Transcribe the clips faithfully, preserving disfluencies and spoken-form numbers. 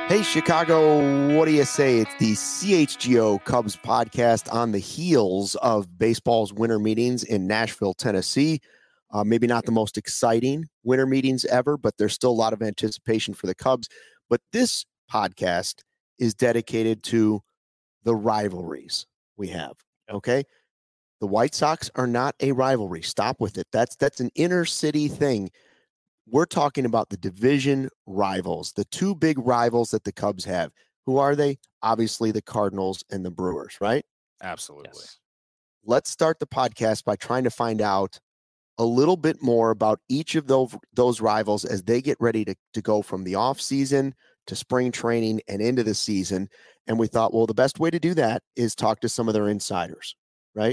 Hey, Chicago, what do you say? It's the C H G O Cubs podcast on the heels of baseball's winter meetings in Nashville, Tennessee. Uh, maybe not the most exciting winter meetings ever, but there's still a lot of anticipation for the Cubs. But this podcast is dedicated to the rivalries we have, okay? The White Sox are not a rivalry. Stop with it. That's that's an inner city thing. We're talking about the division rivals, the two big rivals that the Cubs have. Who are they? Obviously, the Cardinals and the Brewers, right? Absolutely. Yes. Let's start the podcast by trying to find out a little bit more about each of those, those rivals as they get ready to, to go from the offseason to spring training and into the season. And we thought, well, the best way to do that is talk to some of their insiders, right?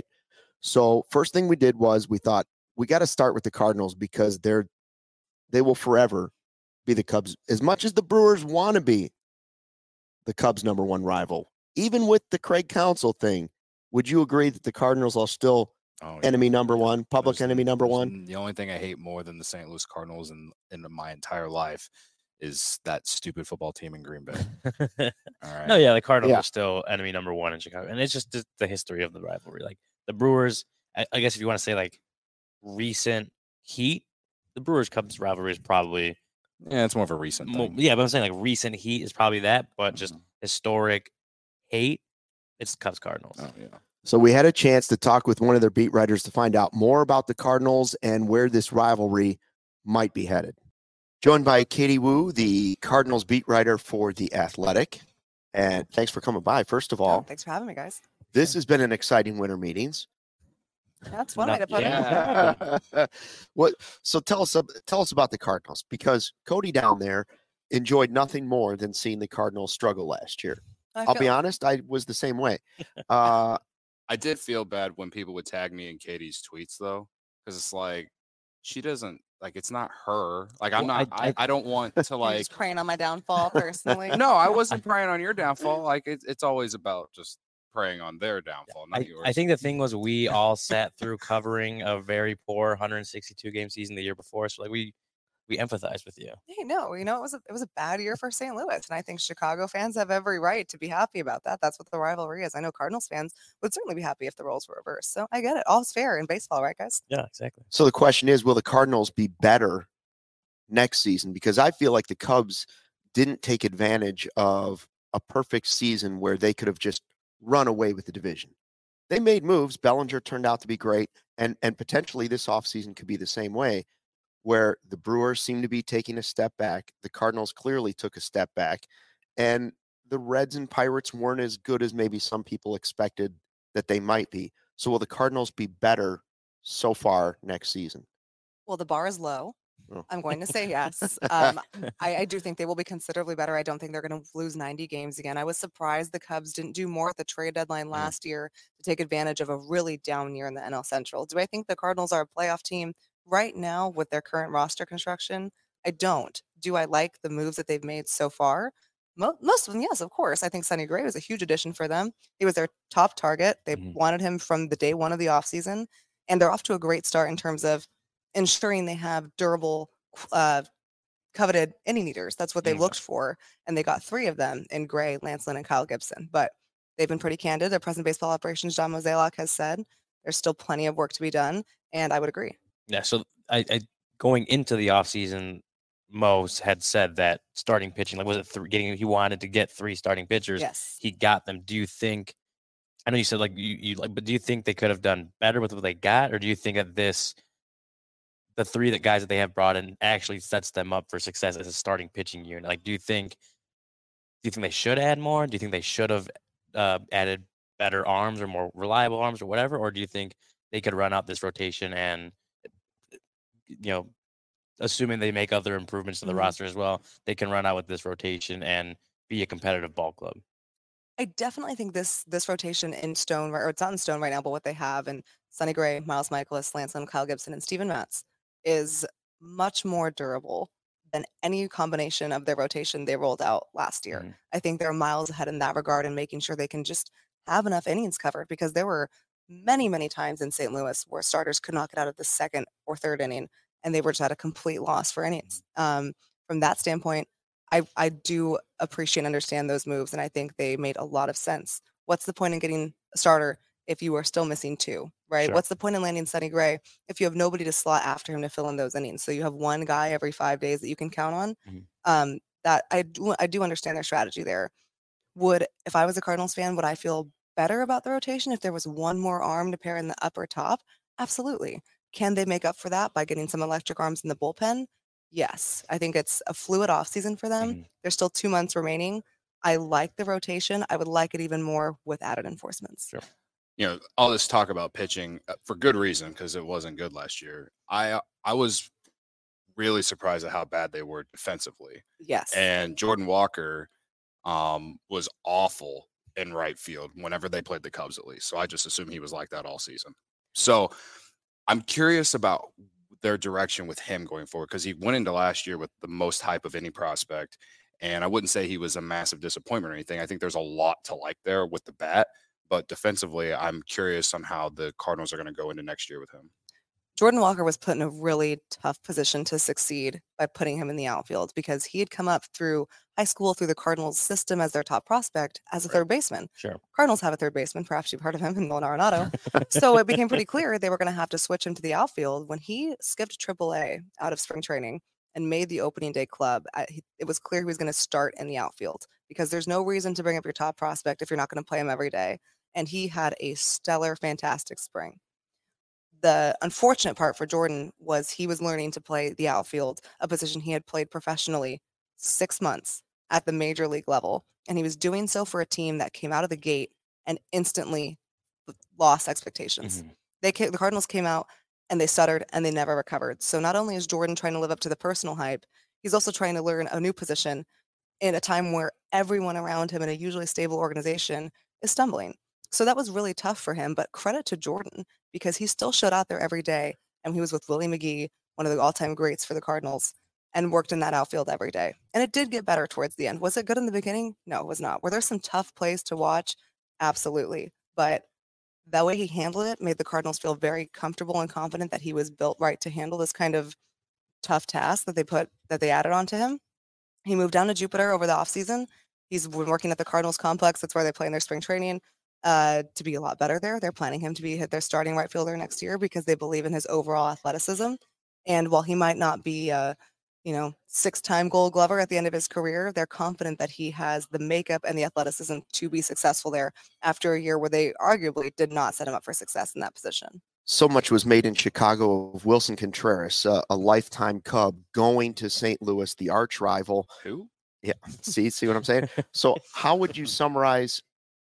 So first thing we did was we thought we got to start with the Cardinals because they're they will forever be the Cubs, as much as the Brewers want to be the Cubs' number one rival. Even with the Craig Counsell thing, would you agree that the Cardinals are still oh, yeah. enemy number one, public there's, enemy number one? The only thing I hate more than the Saint Louis Cardinals in, in my entire life is that stupid football team in Green Bay. All right. No, yeah, the Cardinals yeah. are still enemy number one in Chicago. And it's just the, the history of the rivalry. Like the Brewers, I, I guess if you want to say like recent heat, the Brewers-Cubs rivalry is probably yeah, it's more of a recent thing. Yeah, but I'm saying like recent heat is probably that, but just mm-hmm. historic hate, it's Cubs-Cardinals. Oh yeah. So we had a chance to talk with one of their beat writers to find out more about the Cardinals and where this rivalry might be headed. Joined by Katie Woo, the Cardinals beat writer for The Athletic. And thanks for coming by, first of all. Oh, thanks for having me, guys. This has been an exciting winter meetings. That's one way to put yeah. it. What? So tell us, tell us about the Cardinals, because Cody down there enjoyed nothing more than seeing the Cardinals struggle last year. I'll be honest, I was the same way. Uh, I did feel bad when people would tag me in Katie's tweets, though, because it's like she doesn't like it's not her. Like I'm well, not. I, I, I don't want to like just praying on my downfall personally. No, I wasn't praying on your downfall. Like it, it's always about just preying on their downfall, not I, yours. I think the thing was we all sat through covering a very poor one hundred sixty-two game season the year before, so like we we empathize with you. Hey, no, you know it was a, it was a bad year for Saint Louis, and I think Chicago fans have every right to be happy about that. That's what the rivalry is. I know Cardinals fans would certainly be happy if the roles were reversed. So I get it. All's fair in baseball, right, guys? Yeah, exactly. So the question is, will the Cardinals be better next season? Because I feel like the Cubs didn't take advantage of a perfect season where they could have just run away with the division. They made moves. Bellinger turned out to be great. And, and potentially this offseason could be the same way, where the Brewers seem to be taking a step back. The Cardinals clearly took a step back. And the Reds and Pirates weren't as good as maybe some people expected that they might be. So will the Cardinals be better so far next season? Well, the bar is low. Oh. I'm going to say yes. Um, I, I do think they will be considerably better. I don't think they're going to lose ninety games again. I was surprised the Cubs didn't do more at the trade deadline last yeah. year to take advantage of a really down year in the N L Central. Do I think the Cardinals are a playoff team right now with their current roster construction? I don't. Do I like the moves that they've made so far? Mo- most of them, yes, of course. I think Sonny Gray was a huge addition for them. He was their top target. They mm-hmm. wanted him from the day one of the offseason, and they're off to a great start in terms of ensuring they have durable, uh, coveted inning eaters. That's what they yeah. looked for, and they got three of them in Gray, Lance Lynn, and Kyle Gibson. But they've been pretty candid. Their president of baseball operations, John Mozeliak, has said there's still plenty of work to be done, and I would agree. Yeah, so I, I going into the offseason, Mo had said that starting pitching, like was it three, getting he wanted to get three starting pitchers. Yes. He got them. Do you think, I know you said like you, you like, but do you think they could have done better with what they got, or do you think that this the three that guys that they have brought in actually sets them up for success as a starting pitching unit? Like, do you think, do you think they should add more? Do you think they should have uh, added better arms or more reliable arms or whatever? Or do you think they could run out this rotation and, you know, assuming they make other improvements to the mm-hmm. roster as well, they can run out with this rotation and be a competitive ball club? I definitely think this this rotation in stone, or it's not in stone right now, but what they have in Sonny Gray, Miles Michaelis, Lance Lynn, Kyle Gibson, and Steven Matz is much more durable than any combination of their rotation they rolled out last year. Mm-hmm. I think they're miles ahead in that regard and making sure they can just have enough innings covered, because there were many, many times in Saint Louis where starters could not get out of the second or third inning, and they were just at a complete loss for innings. Um, from that standpoint, I, I do appreciate and understand those moves, and I think they made a lot of sense. What's the point in getting a starter if you are still missing two, right? Sure. What's the point in landing Sonny Gray if you have nobody to slot after him to fill in those innings? So you have one guy every five days that you can count on. Mm-hmm. Um, that I do, I do understand their strategy there. Would, if I was a Cardinals fan, would I feel better about the rotation if there was one more arm to pair in the upper top? Absolutely. Can they make up for that by getting some electric arms in the bullpen? Yes. I think it's a fluid offseason for them. Mm-hmm. There's still two months remaining. I like the rotation. I would like it even more with added enforcements. Sure. You know, all this talk about pitching uh, for good reason, because it wasn't good last year. I I was really surprised at how bad they were defensively. Yes. And Jordan Walker um, was awful in right field whenever they played the Cubs, at least. So I just assume he was like that all season. So I'm curious about their direction with him going forward, because he went into last year with the most hype of any prospect. And I wouldn't say he was a massive disappointment or anything. I think there's a lot to like there with the bat. But defensively, I'm curious on how the Cardinals are going to go into next year with him. Jordan Walker was put in a really tough position to succeed by putting him in the outfield, because he had come up through high school, through the Cardinals system as their top prospect as a Right. third baseman. Sure. Cardinals have a third baseman, perhaps you've heard of him, in Nolan Arenado. So it became pretty clear they were going to have to switch him to the outfield. When he skipped triple A out of spring training and made the opening day club, I, he, it was clear he was going to start in the outfield, because there's no reason to bring up your top prospect if you're not going to play him every day. And he had a stellar, fantastic spring. The unfortunate part for Jordan was he was learning to play the outfield, a position he had played professionally six months at the major league level. And he was doing so for a team that came out of the gate and instantly lost expectations. Mm-hmm. They came, the Cardinals came out and they stuttered and they never recovered. So not only is Jordan trying to live up to the personal hype, he's also trying to learn a new position in a time where everyone around him in a usually stable organization is stumbling. So that was really tough for him, but credit to Jordan, because he still showed out there every day, and he was with Willie McGee, one of the all-time greats for the Cardinals, and worked in that outfield every day. And it did get better towards the end. Was it good in the beginning? No, it was not. Were there some tough plays to watch? Absolutely. But the way he handled it made the Cardinals feel very comfortable and confident that he was built right to handle this kind of tough task that they put that they added onto him. He moved down to Jupiter over the offseason. He's been working at the Cardinals complex. That's where they play in their spring training. Uh, to be a lot better there. They're planning him to be their starting right fielder next year because they believe in his overall athleticism. And while he might not be a, you know, six-time Gold Glover at the end of his career, they're confident that he has the makeup and the athleticism to be successful there after a year where they arguably did not set him up for success in that position. So much was made in Chicago of Wilson Contreras, uh, a lifetime Cub, going to Saint Louis, the arch rival. Who? Yeah. See, see what I'm saying? So how would you summarize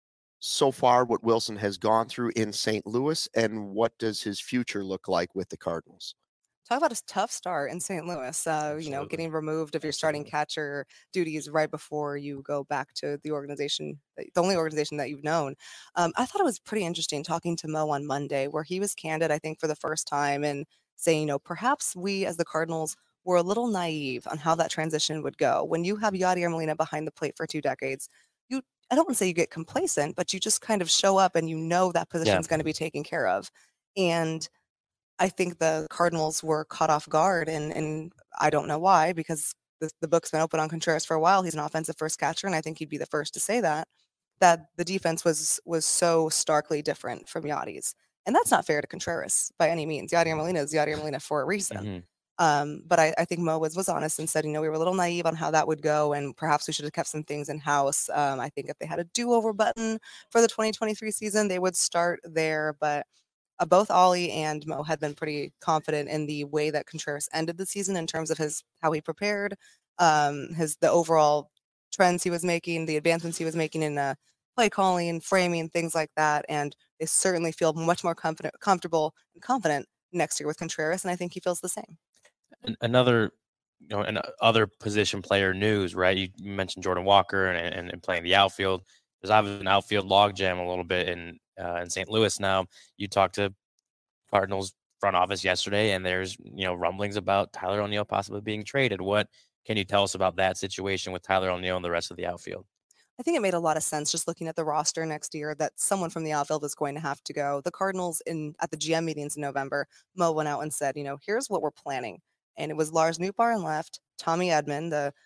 so far what Wilson has gone through in Saint Louis, and what does his future look like with the Cardinals? Talk about a tough start in Saint Louis, uh, you know, getting removed of your starting catcher duties right before you go back to the organization, the only organization that you've known. Um, I thought it was pretty interesting talking to Mo on Monday, where he was candid, I think, for the first time, and saying, you know, perhaps we as the Cardinals were a little naive on how that transition would go. When you have Yadier Molina behind the plate for two decades, you I don't want to say you get complacent, but you just kind of show up and you know that position is Yeah. going to be taken care of. And I think the Cardinals were caught off guard, and, and I don't know why, because the, the book's been open on Contreras for a while. He's an offensive first catcher, and I think he'd be the first to say that, that the defense was was so starkly different from Yadi's. And that's not fair to Contreras by any means. Yadier Molina is Yadier Molina for a reason. Mm-hmm. Um, but I, I think Mo was, was honest and said, you know, we were a little naive on how that would go, and perhaps we should have kept some things in house. Um, I think if they had a do-over button for the twenty twenty-three season, they would start there. But uh, both Ollie and Mo had been pretty confident in the way that Contreras ended the season in terms of his how he prepared, um, his the overall trends he was making, the advancements he was making in uh, play calling, framing, things like that. And they certainly feel much more confident, comfortable, and confident next year with Contreras, and I think he feels the same. Another, you know, and other position player news, right? You mentioned Jordan Walker and, and, and playing the outfield. There's obviously an outfield logjam a little bit in uh, in Saint Louis now. You talked to Cardinals front office yesterday, and there's, you know, rumblings about Tyler O'Neill possibly being traded. What can you tell us about that situation with Tyler O'Neill and the rest of the outfield? I think it made a lot of sense just looking at the roster next year that someone from the outfield is going to have to go. The Cardinals in at the G M meetings in November, Mo went out and said, you know, here's what we're planning. And it was Lars Nootbaar in left, Tommy Edman, the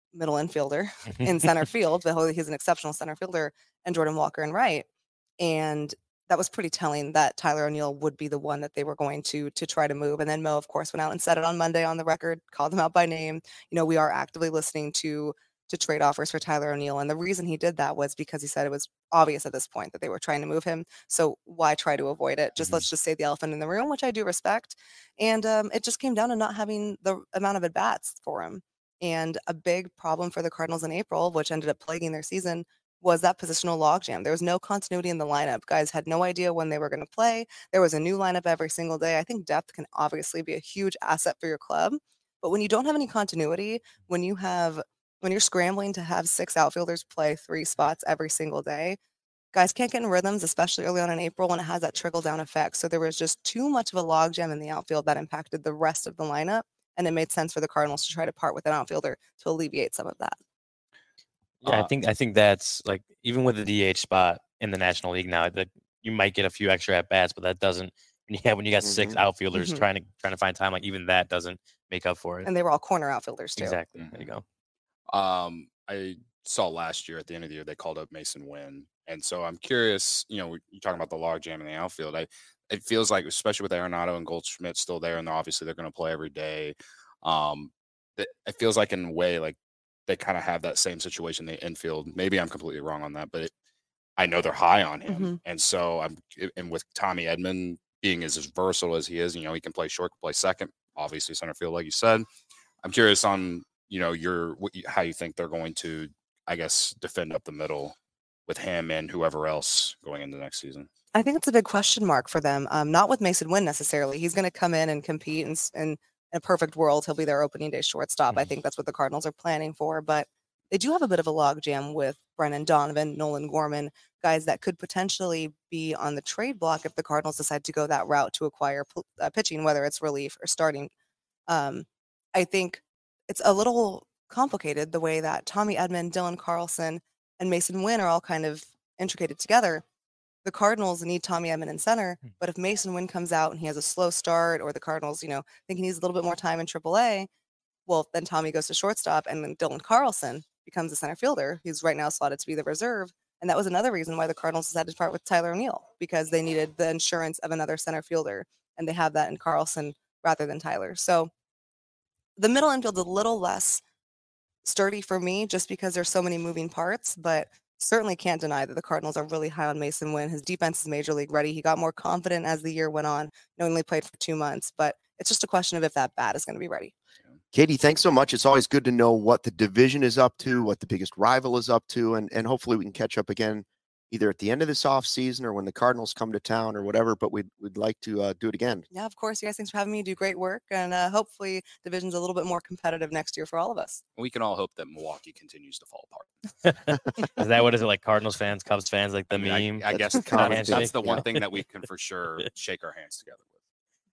middle infielder in center field, but he's an exceptional center fielder, and Jordan Walker in right. And that was pretty telling that Tyler O'Neill would be the one that they were going to to try to move. And then Mo, of course, went out and said it on Monday on the record, called him out by name. You know, we are actively listening to to trade offers for Tyler O'Neill. And the reason he did that was because he said it was obvious at this point that they were trying to move him. So why try to avoid it? Just mm-hmm. let's just say the elephant in the room, which I do respect. And um, it just came down to not having the amount of at-bats for him. And a big problem for the Cardinals in April, which ended up plaguing their season, was that positional logjam. There was no continuity in the lineup. Guys had no idea when they were going to play. There was a new lineup every single day. I think depth can obviously be a huge asset for your club. But when you don't have any continuity, when you have when you're scrambling to have six outfielders play three spots every single day, guys can't get in rhythms, especially early on in April when it has that trickle-down effect. So there was just too much of a logjam in the outfield that impacted the rest of the lineup, and it made sense for the Cardinals to try to part with an outfielder to alleviate some of that. Yeah, Uh, I think I think that's like even with the D H spot in the National League now, that you might get a few extra at bats, but that doesn't. Yeah, when you got six Mhm. outfielders Mhm. trying to trying to find time, like even that doesn't make up for it. And they were all corner outfielders too. Exactly. There you go. Um, I saw last year at the end of the year they called up Mason Wynn, and so I'm curious. You know, you're talking about the logjam in the outfield. I it feels like, especially with Arenado and Goldschmidt still there, and obviously they're going to play every day. Um, that it feels like in a way like they kind of have that same situation in the infield. Maybe I'm completely wrong on that, but it, I know they're high on him, Mhm. and so I'm. And with Tommy Edman being as, as versatile as he is, you know, he can play short, can play second, obviously center field, like you said. I'm curious on, you know, your what you, how you think they're going to, I guess, defend up the middle with him and whoever else going into next season. I think it's a big question mark for them. Um, not with Mason Wynn necessarily. He's going to come in and compete, and, s- and in a perfect world, he'll be their opening day shortstop. I Mhm. think that's what the Cardinals are planning for. But they do have a bit of a logjam with Brennan Donovan, Nolan Gorman, guys that could potentially be on the trade block if the Cardinals decide to go that route to acquire p- uh, pitching, whether it's relief or starting. Um, I think it's a little complicated the way that Tommy Edman, Dylan Carlson, and Mason Wynn are all kind of intricated together. The Cardinals need Tommy Edman in center, Hmm. but if Mason Wynn comes out and he has a slow start, or the Cardinals, you know, think he needs a little bit more time in triple A, well, then Tommy goes to shortstop, and then Dylan Carlson becomes the center fielder. He's right now slotted to be the reserve. And that was another reason why the Cardinals decided to part with Tyler O'Neill, because they needed the insurance of another center fielder, and they have that in Carlson rather than Tyler. So the middle infield's a little less sturdy for me just because there's so many moving parts, but certainly can't deny that the Cardinals are really high on Mason Wynn. His defense is major league ready. He got more confident as the year went on. He only played for two months, but it's just a question of if that bat is going to be ready. Katie, thanks so much. It's always good to know what the division is up to, what the biggest rival is up to, and, and hopefully we can catch up again either at the end of this off season or when the Cardinals come to town or whatever, but we'd, we'd like to uh, do it again. Yeah, of course. You guys, thanks for having me. You do great work, and uh, hopefully division's a little bit more competitive next year for all of us. We can all hope that Milwaukee continues to fall apart. Is that what is it like? Cardinals fans, Cubs fans, like the I mean, I- meme? I, That's guess the that's, common that's handshake, the one yeah. thing that we can for sure shake our hands together with.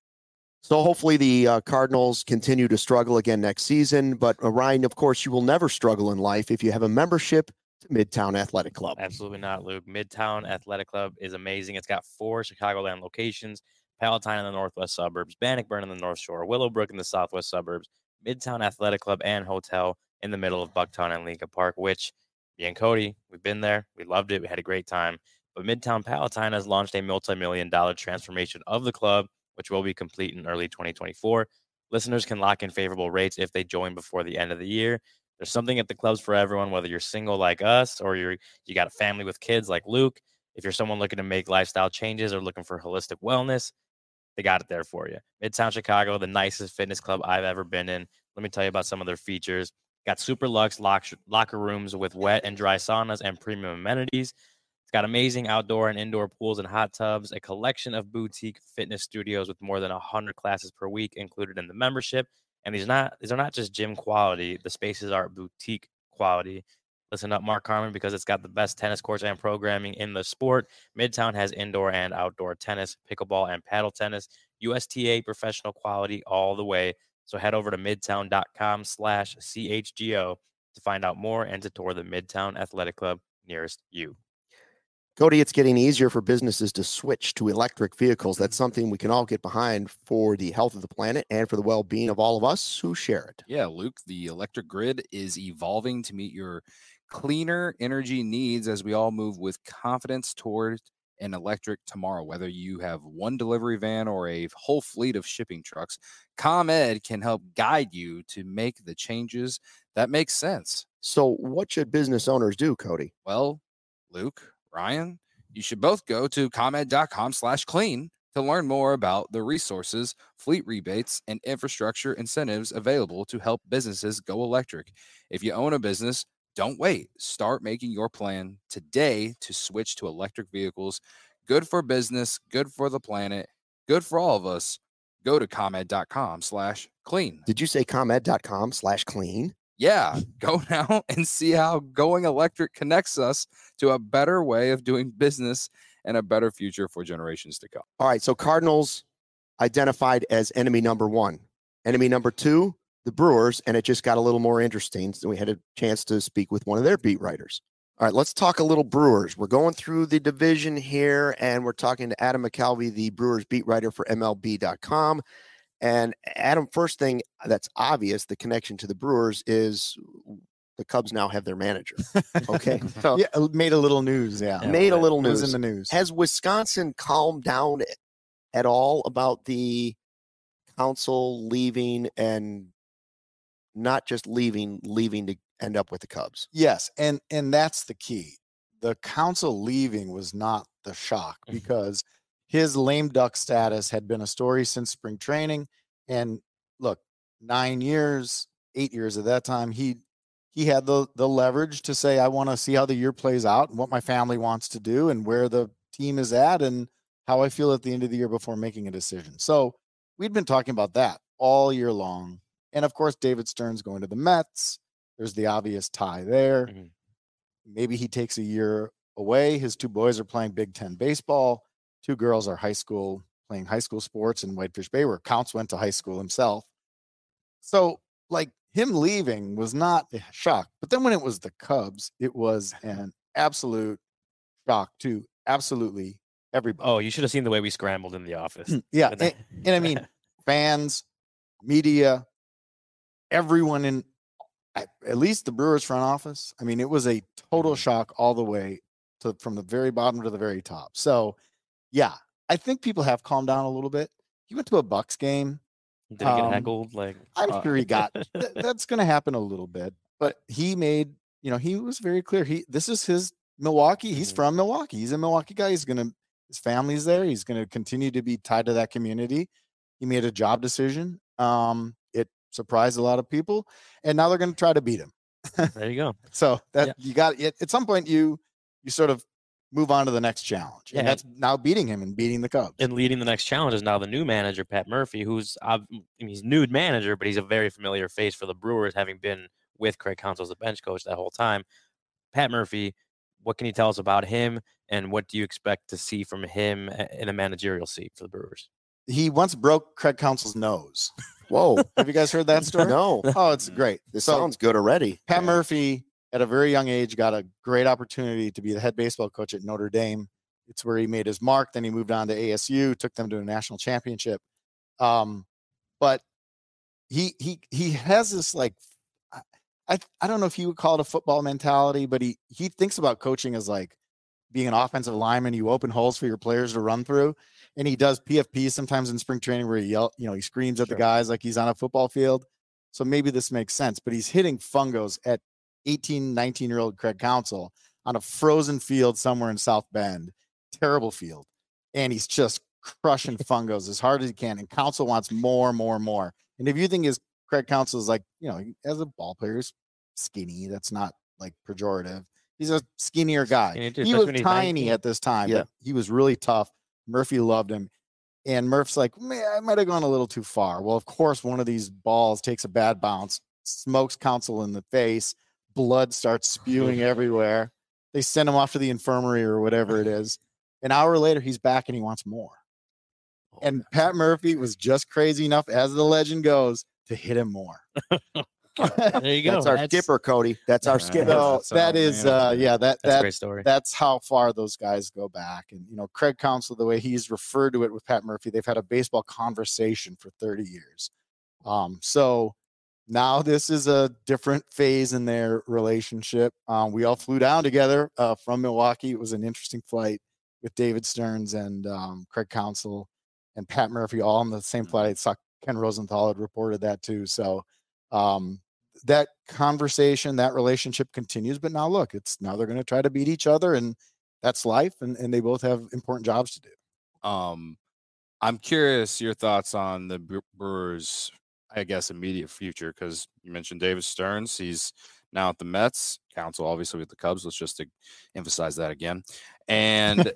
So hopefully the uh, Cardinals continue to struggle again next season. But uh, Ryan, of course, you will never struggle in life if you have a membership to Midtown Athletic Club. Absolutely not, Luke. Midtown Athletic Club is amazing. It's got four Chicagoland locations: Palatine in the northwest suburbs, Bannockburn in the North Shore, Willowbrook in the southwest suburbs, Midtown Athletic Club and Hotel in the middle of Bucktown and Lincoln Park, which me and Cody, we've been there. We loved it. We had a great time. But Midtown Palatine has launched a multi-million dollar transformation of the club, which will be complete in early twenty twenty-four. Listeners can lock in favorable rates if they join before the end of the year. There's something at the clubs for everyone, whether you're single like us or you're you got a family with kids like Luke. If you're someone looking to make lifestyle changes or looking for holistic wellness, they got it there for you. Midtown Chicago, the nicest fitness club I've ever been in. Let me tell you about some of their features. Got super luxe lock, locker rooms with wet and dry saunas and premium amenities. It's got amazing outdoor and indoor pools and hot tubs, a collection of boutique fitness studios with more than one hundred classes per week included in the membership. And these not these are not just gym quality. The spaces are boutique quality. Listen up, Mark Carmen, because it's got the best tennis courts and programming in the sport. Midtown has indoor and outdoor tennis, pickleball, and paddle tennis. U S T A professional quality all the way. So head over to midtown.com slash CHGO to find out more and to tour the Midtown Athletic Club nearest you. Cody, it's getting easier for businesses to switch to electric vehicles. That's something we can all get behind for the health of the planet and for the well-being of all of us who share it. Yeah, Luke, the electric grid is evolving to meet your cleaner energy needs as we all move with confidence toward an electric tomorrow. Whether you have one delivery van or a whole fleet of shipping trucks, ComEd can help guide you to make the changes that make sense. So what should business owners do, Cody? Well, Luke, Ryan, you should both go to ComEd.com slash clean to learn more about the resources, fleet rebates, and infrastructure incentives available to help businesses go electric. If you own a business, don't wait. Start making your plan today to switch to electric vehicles. Good for business, good for the planet, good for all of us. Go to ComEd.com slash clean. Did you say ComEd.com slash clean? Yeah, go now and see how going electric connects us to a better way of doing business and a better future for generations to come. All right, so Cardinals identified as enemy number one. Enemy number two, the Brewers, and it just got a little more interesting. So we had a chance to speak with one of their beat writers. All right, let's talk a little Brewers. We're going through the division here, and we're talking to Adam McCalvey, the Brewers beat writer for M L B dot com. And Adam, first thing that's obvious, the connection to the Brewers is the Cubs now have their manager. Okay. So yeah, made a little news. Yeah. Made a little news news in the news. Has Wisconsin calmed down at all about the council leaving and not just leaving, leaving to end up with the Cubs? Yes. And, and that's the key. The council leaving was not the shock because his lame duck status had been a story since spring training. And look, nine years, eight years at that time, he he had the the leverage to say, I want to see how the year plays out and what my family wants to do and where the team is at and how I feel at the end of the year before making a decision. So we'd been talking about that all year long. And of course, David Stern's going to the Mets. There's the obvious tie there. Mm-hmm. Maybe he takes a year away. His two boys are playing Big Ten baseball. Two girls are high school, playing high school sports in Whitefish Bay, where Counts went to high school himself. So, like, him leaving was not a shock. But then when it was the Cubs, it was an absolute shock to absolutely everybody. Oh, you should have seen the way we scrambled in the office. Yeah. and, and I mean, fans, media, everyone in, at least the Brewers front office. I mean, it was a total shock all the way to from the very bottom to the very top. So, yeah, I think people have calmed down a little bit. He went to a Bucks game. Did he um, get heckled? Like, I'm uh, sure he got. th- that's going to happen a little bit. But he made, you know, he was very clear. He this is his Milwaukee. He's mm-hmm. from Milwaukee. He's a Milwaukee guy. He's going to, his family's there. He's going to continue to be tied to that community. He made a job decision. Um, it surprised a lot of people, and now they're going to try to beat him. There you go. So that yeah. you got it. At some point, you you sort of move on to the next challenge. And yeah. that's now beating him and beating the Cubs. And leading the next challenge is now the new manager, Pat Murphy, who's I mean, he's new manager, but he's a very familiar face for the Brewers, having been with Craig Counsell as the bench coach that whole time. Pat Murphy, what can you tell us about him, and what do you expect to see from him in a managerial seat for the Brewers? He once broke Craig Counsell's nose. Whoa. Have you guys heard that story? No. Oh, it's great. This so, sounds good already. Pat Murphy, at a very young age, got a great opportunity to be the head baseball coach at Notre Dame. It's where he made his mark. Then he moved on to A S U, took them to a national championship. Um, but he he he has this, like, I I don't know if you would call it a football mentality, but he he thinks about coaching as like being an offensive lineman. You open holes for your players to run through. And he does P F Ps sometimes in spring training where he yell, you know, he screams at sure. the guys like he's on a football field. So maybe this makes sense, but he's hitting fungos at eighteen, nineteen year old Craig Counsell on a frozen field somewhere in South Bend, terrible field. And he's just crushing fungos as hard as he can. And Counsell wants more, more, more. And if you think his Craig Counsell is like, you know, as a ball player, he's skinny. That's not like pejorative. He's a skinnier guy. He was tiny at this time, yeah. but he was really tough. Murphy loved him. And Murph's like, man, I might have gone a little too far. Well, of course, one of these balls takes a bad bounce, smokes Counsell in the face. Blood starts spewing everywhere. They send him off to the infirmary or whatever it is. An hour later, he's back and he wants more. And Pat Murphy was just crazy enough, as the legend goes, to hit him more. There you go. That's our skipper, Cody. That's our skipper. So That's that all, is, man. uh, yeah, that That's a that great story. that's how far those guys go back. And you know, Craig Counsell, the way he's referred to it with Pat Murphy, they've had a baseball conversation for thirty years. Um, so now this is a different phase in their relationship. Um, we all flew down together uh, from Milwaukee. It was an interesting flight with David Stearns and um, Craig Counsell and Pat Murphy all on the same flight. I saw Ken Rosenthal had reported that too. So um, that conversation, that relationship continues. But now look, it's now they're going to try to beat each other, and that's life. And, and they both have important jobs to do. Um, I'm curious your thoughts on the Bre- Brewers, I guess, immediate future, because you mentioned David Stearns. He's now at the Mets. Counsell, obviously, with the Cubs. Let's just to emphasize that again. And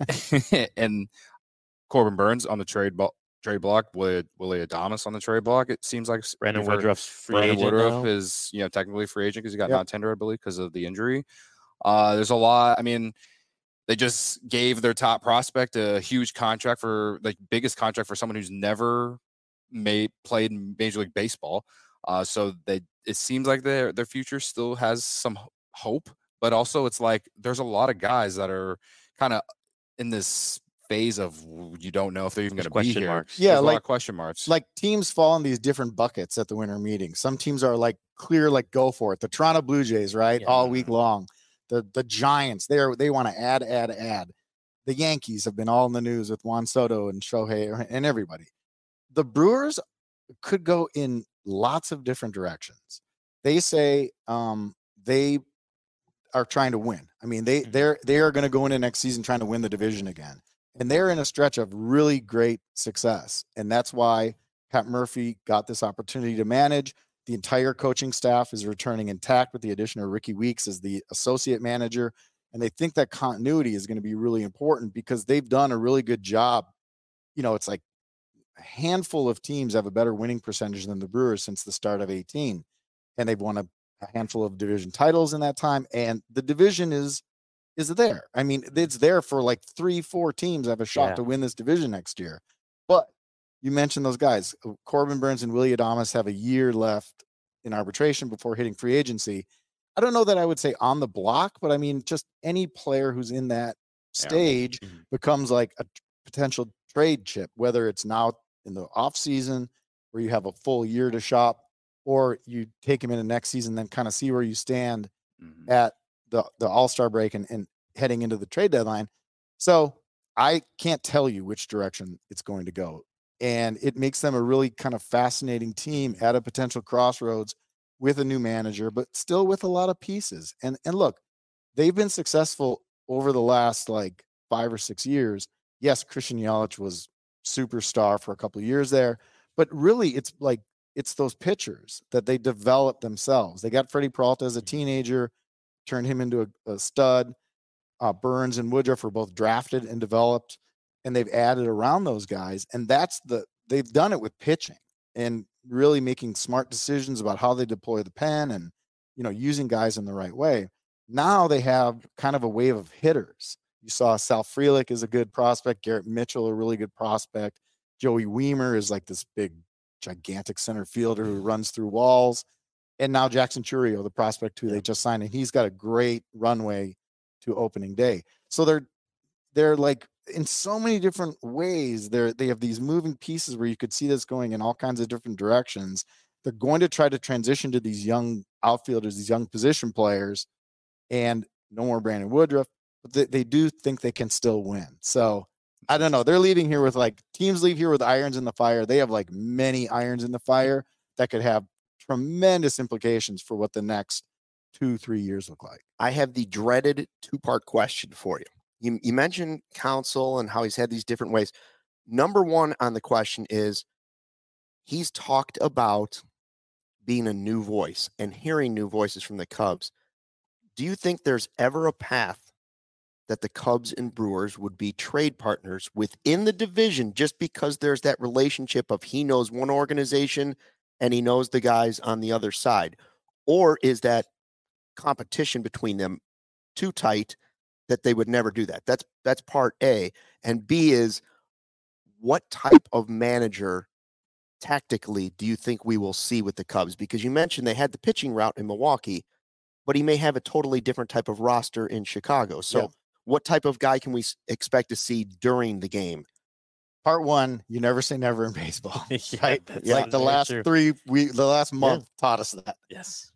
and Corbin Burns on the trade ball. Trade block with Willie Adames on the trade block. It seems like Brandon we've heard Woodruff's free Brandon agent Woodruff now. is, you know, technically free agent because he got Yep. non-tender, I believe, because of the injury. Uh, there's a lot. I mean, they just gave their top prospect a huge contract for the biggest contract for someone who's never made played in Major League Baseball. Uh, so they it seems like their their future still has some h- hope, but also it's like there's a lot of guys that are kind of in this phase of w- you don't know if they're even There's going to be question here. marks. Yeah, There's a lot like- of question marks. Like teams fall in these different buckets at the winter meeting. Some teams are like clear, like go for it. The Toronto Blue Jays, right, Yeah. all week long. The the Giants, they are they want to add, add, add. The Yankees have been all in the news with Juan Soto and Shohei and everybody. The Brewers could go in lots of different directions. They say um, they are trying to win. I mean, they Mhm. they're they are going to go into next season trying to win the division again, and they're in a stretch of really great success, and that's why Pat Murphy got this opportunity to manage. The entire coaching staff is returning intact with the addition of Ricky Weeks as the associate manager, and they think that continuity is going to be really important because they've done a really good job. You know, it's like a handful of teams have a better winning percentage than the Brewers since the start of eighteen, and they've won a, a handful of division titles in that time, and the division is is there. I mean, it's there for like three, four teams have a shot Yeah. to win this division next year. But you mentioned those guys, uh, Corbin Burns and Willie Adames have a year left in arbitration before hitting free agency. I don't know that I would say on the block, but I mean, just any player who's in that Yeah. stage Mhm. becomes like a t- potential trade chip, whether it's now in the off season where you have a full year to shop, or you take him in the next season, then kind of see where you stand Mhm. at the the All-Star break and, and heading into the trade deadline. So I can't tell you which direction it's going to go. And it makes them a really kind of fascinating team at a potential crossroads with a new manager, but still with a lot of pieces. And and look, they've been successful over the last like five or six years. Yes, Christian Yelich was superstar for a couple of years there, but really it's like it's those pitchers that they developed themselves. They got Freddie Peralta as a teenager, turned him into a, a stud. Uh, Burns and Woodruff were both drafted and developed, and they've added around those guys. And that's the they've done it with pitching and really making smart decisions about how they deploy the pen and you know using guys in the right way. Now they have kind of a wave of hitters. You saw Sal Frelick is a good prospect, Garrett Mitchell a really good prospect, Joey Weimer is like this big gigantic center fielder who runs through walls, and now Jackson Churio, the prospect who Yeah. they just signed, and he's got a great runway to opening day. So they're they're like in so many different ways. They're they have these moving pieces where you could see this going in all kinds of different directions. They're going to try to transition to these young outfielders, these young position players, and no more Brandon Woodruff, but they, they do think they can still win. So I don't know. They're leaving here with like teams leave here with irons in the fire. They have like many irons in the fire that could have tremendous implications for what the next two, three years look like. I have the dreaded two-part question for you. You, you mentioned Counsell and how he's had these different ways. Number one on the question is he's talked about being a new voice and hearing new voices from the Cubs. Do you think there's ever a path that the Cubs and Brewers would be trade partners within the division just because there's that relationship of he knows one organization and he knows the guys on the other side? Or is that competition between them too tight that they would never do that? That's that's part A. And B is what type of manager tactically do you think we will see with the Cubs? Because you mentioned they had the pitching route in Milwaukee, but he may have a totally different type of roster in Chicago. So Yeah. what type of guy can we s- expect to see during the game? Part one, you never say never in baseball. Yeah, Right? that's Like the very last true. three we the last month taught us that. Yes.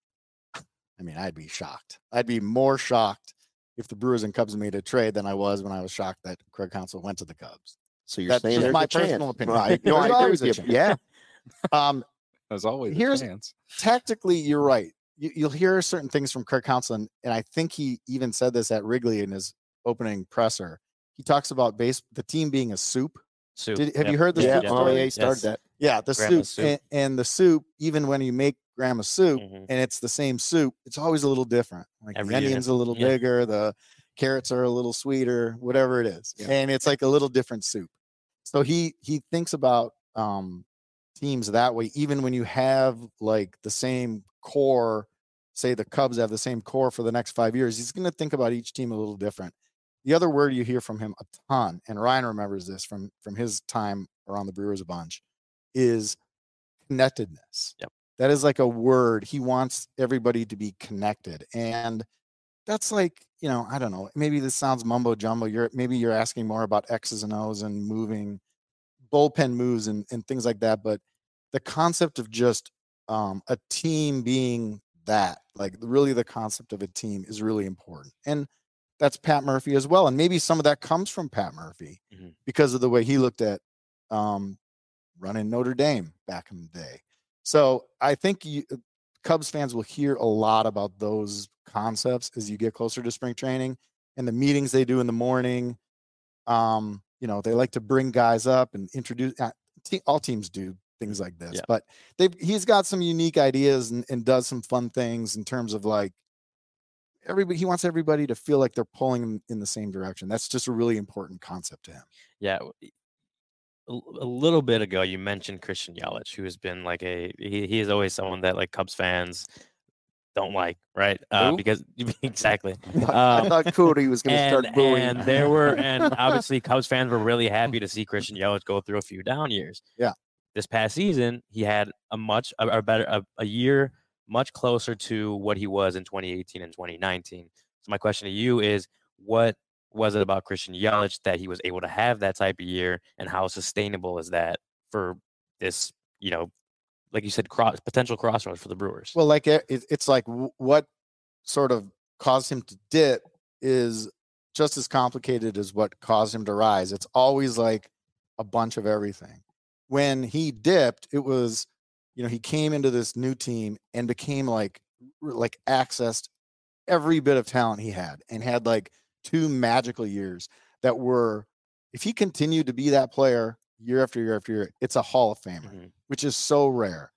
I mean, I'd be shocked. I'd be more shocked if the Brewers and Cubs made a trade than I was when I was shocked that Craig Counsell went to the Cubs. So you're That's saying just there's my a chance. personal opinion. Right. No, I There's agree always with a you. chance. Yeah. Um, As always, Here's- a chance. tactically, you're right. You, you'll hear certain things from Craig Counsell, and, and I think he even said this at Wrigley in his opening presser. He talks about base the team being a soup. Soup. Did, have Yep. you heard the Yeah. soup Oh, story? yeah. He started Yes. that. Yeah, the Grandma's soup, soup. And, and the soup. Even when you make grandma's soup, Mhm. and it's the same soup, it's always a little different. Like Every the year. onions a little Yeah. bigger, the carrots are a little sweeter, whatever it is, Yeah. and it's like a little different soup. So he he thinks about um, teams that way, even when you have like the same core. Say the Cubs have the same core for the next five years. He's going to think about each team a little different. The other word you hear from him a ton, and Ryan remembers this from from his time around the Brewers a bunch, is connectedness. Yep. That is like a word. He wants everybody to be connected. And that's like, you know, I don't know, maybe this sounds mumbo jumbo. You're maybe you're asking more about X's and O's and moving bullpen moves and, and things like that. But the concept of just um, a team being that, like really the concept of a team is really important. And that's Pat Murphy as well. And maybe some of that comes from Pat Murphy Mhm. because of the way he looked at um, running Notre Dame back in the day. So I think you, Cubs fans will hear a lot about those concepts as you get closer to spring training and the meetings they do in the morning. Um, you know, they like to bring guys up and introduce. Uh, te- all teams do things like this, Yeah. but they he's got some unique ideas and, and does some fun things in terms of like everybody. He wants everybody to feel like they're pulling in the same direction. That's just a really important concept to him. Yeah. w- A, a little bit ago, you mentioned Christian Yelich, who has been like a he, he is always someone that like Cubs fans don't like, right? Uh, Who? because exactly. I Um, thought Cody was going to and, start booing. and there were, and obviously Cubs fans were really happy to see Christian Yelich go through a few down years. Yeah. This past season, he had a much, a, a better, a, a year much closer to what he was in twenty eighteen and twenty nineteen. So my question to you is, what was it about Christian Yelich that he was able to have that type of year, and how sustainable is that for this, you know, like you said, cross potential crossroads for the Brewers? Well, like it, it's like w- what sort of caused him to dip is just as complicated as what caused him to rise. It's always like a bunch of everything. When he dipped, it was, you know, he came into this new team and became like, r- like accessed every bit of talent he had and had like two magical years that were, if he continued to be that player year after year after year, it's a Hall of Famer, Mhm. which is so rare.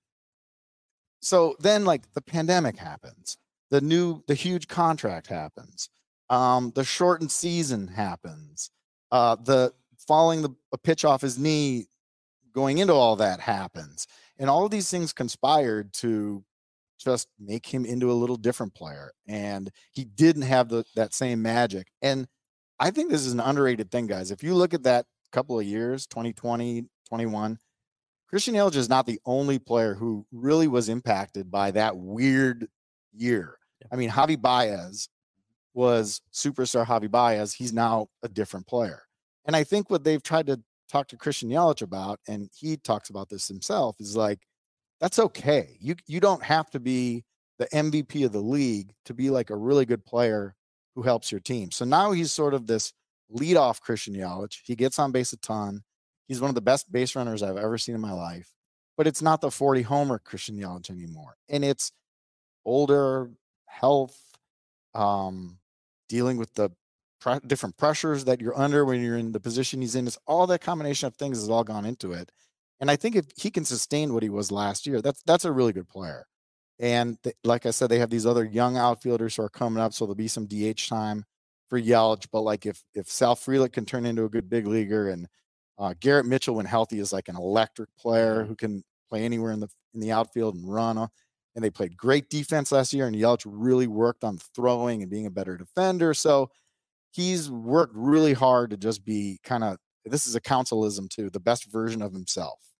So then like the pandemic happens, the new, the huge contract happens, um, the shortened season happens, uh, the falling the a pitch off his knee, going into all that happens. And all of these things conspired to just make him into a little different player. And he didn't have the, that same magic. And I think this is an underrated thing, guys. If you look at that couple of years, twenty twenty, twenty-one, Christian Yelich is not the only player who really was impacted by that weird year. I mean, Javi Baez was superstar Javi Baez. He's now a different player. And I think what they've tried to talk to Christian Yelich about, and he talks about this himself, is like, that's okay. You you don't have to be the M V P of the league to be like a really good player who helps your team. So now he's sort of this leadoff Christian Yelich. He gets on base a ton. He's one of the best base runners I've ever seen in my life. But it's not the forty homer Christian Yelich anymore. And it's older, health, um, dealing with the pre- different pressures that you're under when you're in the position he's in. It's all that combination of things has all gone into it. And I think if he can sustain what he was last year, that's that's a really good player. And th- like I said, they have these other young outfielders who are coming up, so there'll be some D H time for Yelich. But like if if Sal Frelick can turn into a good big leaguer, and uh, Garrett Mitchell, when healthy, is like an electric player Mhm. who can play anywhere in the in the outfield and run. uh, And they played great defense last year, and Yelich really worked on throwing and being a better defender. So he's worked really hard to just be kind of, this is a counselism too, the best version of himself.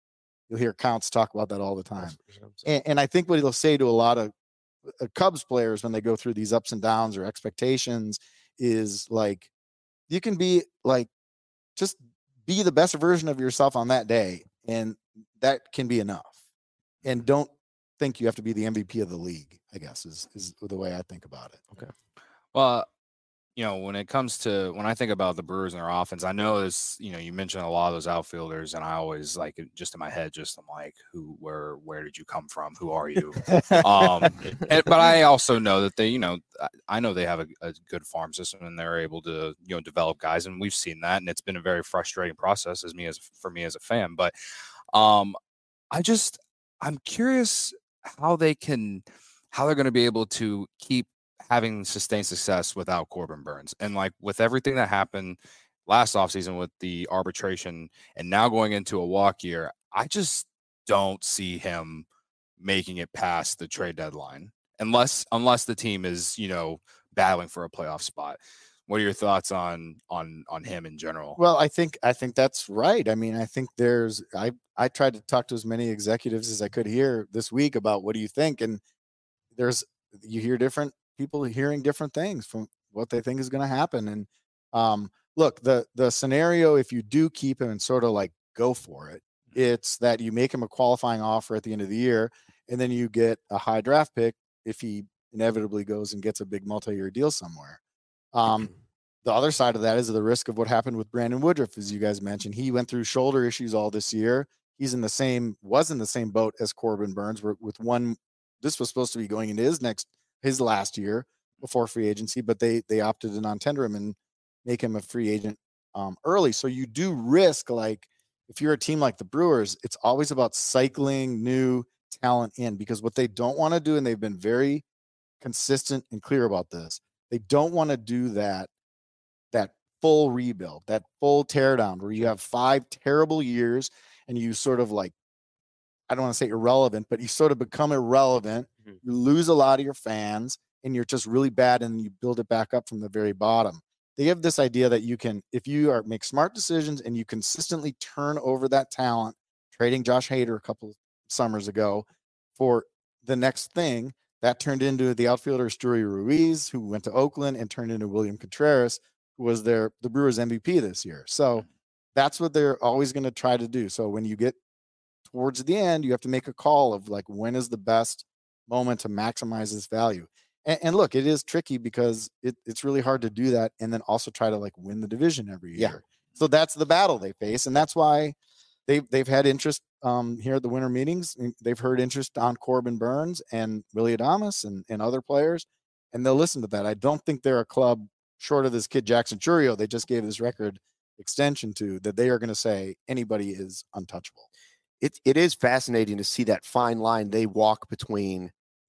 You'll hear Counts talk about that all the time. And, and I think what he'll say to a lot of uh, Cubs players when they go through these ups and downs or expectations is like, you can be like, just be the best version of yourself on that day. And that can be enough. And don't think you have to be the M V P of the league, I guess, is, is the way I think about it. Okay. Well, you know, when it comes to when I think about the Brewers and their offense, I know this, you know, you mentioned a lot of those outfielders, and I always like it just in my head, just I'm like, who, where, where did you come from? Who are you? um, and, but I also know that they, you know, I, I know they have a, a good farm system and they're able to, you know, develop guys, and we've seen that, and it's been a very frustrating process as me as for me as a fan. But um, I just I'm curious how they can, how they're going to be able to keep having sustained success without Corbin Burnes. And like with everything that happened last offseason with the arbitration and now going into a walk year, I just don't see him making it past the trade deadline unless unless the team is, you know, battling for a playoff spot. What are your thoughts on on on him in general? Well, I think I think that's right. I mean, I think there's I I tried to talk to as many executives as I could here this week about what do you think, and there's you hear different people hearing different things from what they think is going to happen. And um, look, the the scenario, if you do keep him and sort of like go for it, it's that you make him a qualifying offer at the end of the year, and then you get a high draft pick if he inevitably goes and gets a big multi-year deal somewhere. Um, the other side of that is the risk of what happened with Brandon Woodruff, as you guys mentioned. He went through shoulder issues all this year. He's in the same, was in the same boat as Corbin Burnes, with one. This was supposed to be going into his next, his last year before free agency, but they they opted to non-tender him and make him a free agent um, early. So you do risk, like, if you're a team like the Brewers, it's always about cycling new talent in, because what they don't want to do, and they've been very consistent and clear about this, they don't want to do that, that full rebuild, that full teardown where you have five terrible years and you sort of like, I don't want to say irrelevant, but you sort of become irrelevant. Mm-hmm. You lose a lot of your fans and you're just really bad, and you build it back up from the very bottom. They have this idea that you can, if you are make smart decisions and you consistently turn over that talent, trading Josh Hader a couple of summers ago for the next thing, that turned into the outfielder Esteury Ruiz, who went to Oakland, and turned into William Contreras, who was their the Brewers M V P this year. So that's what they're always going to try to do. So when you get towards the end, you have to make a call of like, when is the best moment to maximize this value? And, and look, it is tricky because it, it's really hard to do that and then also try to like win the division every year. Yeah. So that's the battle they face, and that's why they've they've had interest um, here at the winter meetings. They've heard interest on Corbin Burnes and Willy Adames and, and other players, and they'll listen to that. I don't think they're a club, short of this kid Jackson Chourio they just gave this record extension to, that they are going to say anybody is untouchable. It it is fascinating to see that fine line they walk between,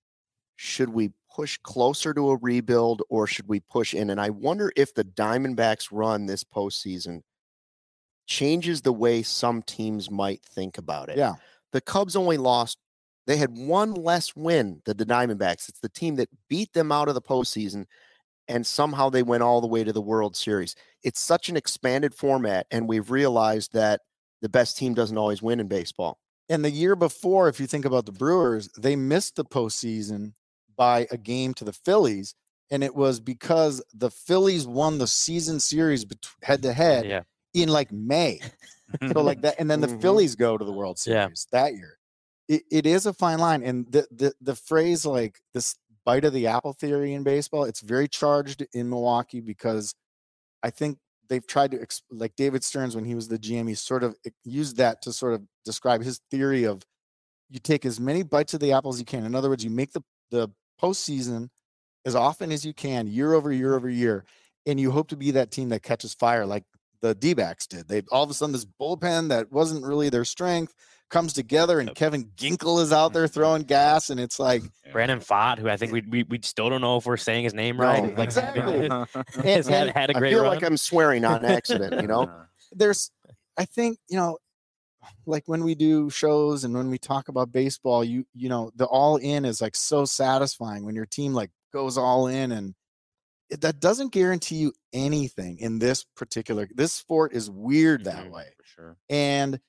should we push closer to a rebuild or should we push in? And I wonder if the Diamondbacks run this postseason changes the way some teams might think about it. Yeah. The Cubs only lost, they had one less win than the Diamondbacks. It's the team that beat them out of the postseason, and somehow they went all the way to the World Series. It's such an expanded format, and we've realized that the best team doesn't always win in baseball. And the year before, if you think about the Brewers, they missed the postseason by a game to the Phillies, and it was because the Phillies won the season series head to head Yeah. in like May. So like that, and then the Mhm. Phillies go to the World Series Yeah. that year. It, it is a fine line, and the, the the phrase like this bite of the apple theory in baseball, it's very charged in Milwaukee, because I think they've tried to, like David Stearns, when he was the G M, he sort of used that to sort of describe his theory of, you take as many bites of the apple as you can. In other words, you make the the postseason as often as you can, year over year over year, and you hope to be that team that catches fire like the D-backs did. They all of a sudden, this bullpen that wasn't really their strength comes together, and Kevin Ginkel is out there throwing gas, and it's like Brandon Pfaadt, who I think we we, we still don't know if we're saying his name No, right. Like, exactly. has had, had a I great feel run. like I'm swearing on accident, you know? there's, I think, you know, like when we do shows and when we talk about baseball, you you know, the all in is like so satisfying when your team like goes all in, and it, that doesn't guarantee you anything in this particular, this sport is weird that Mhm, way. for sure. And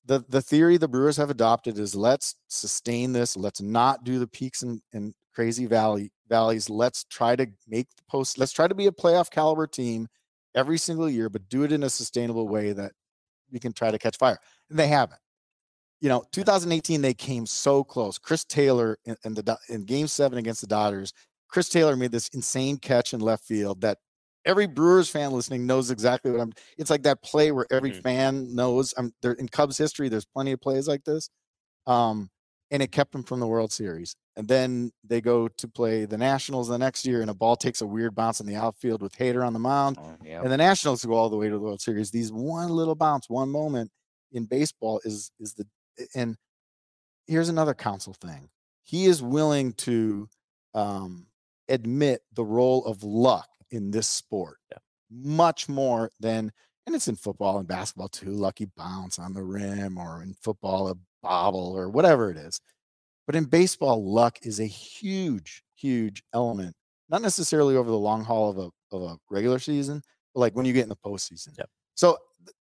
the the theory the Brewers have adopted is let's sustain this. Let's not do the peaks and, and crazy valley valleys. Let's try to make the post. Let's try to be a playoff caliber team every single year, but do it in a sustainable way that we can try to catch fire. And they haven't. You know, two thousand eighteen, they came so close. Chris Taylor in, in the in Game Seven against the Dodgers, Chris Taylor made this insane catch in left field that every Brewers fan listening knows exactly what I'm. It's like that play where every mm-hmm. fan knows. I'm there in Cubs history. There's plenty of plays like this, um, and it kept them from the World Series. And then they go to play the Nationals the next year, and a ball takes a weird bounce in the outfield with Hader on the mound, oh, yep. and the Nationals go all the way to the World Series. These one little bounce, one moment in baseball is is the. And here's another counsel thing. He is willing to um, admit the role of luck in this sport yeah. much more than, and it's in football and basketball too, lucky bounce on the rim, or in football, a bobble or whatever it is. But in baseball, luck is a huge, huge element, not necessarily over the long haul of a, of a regular season, but like when you get in the postseason. Yep. So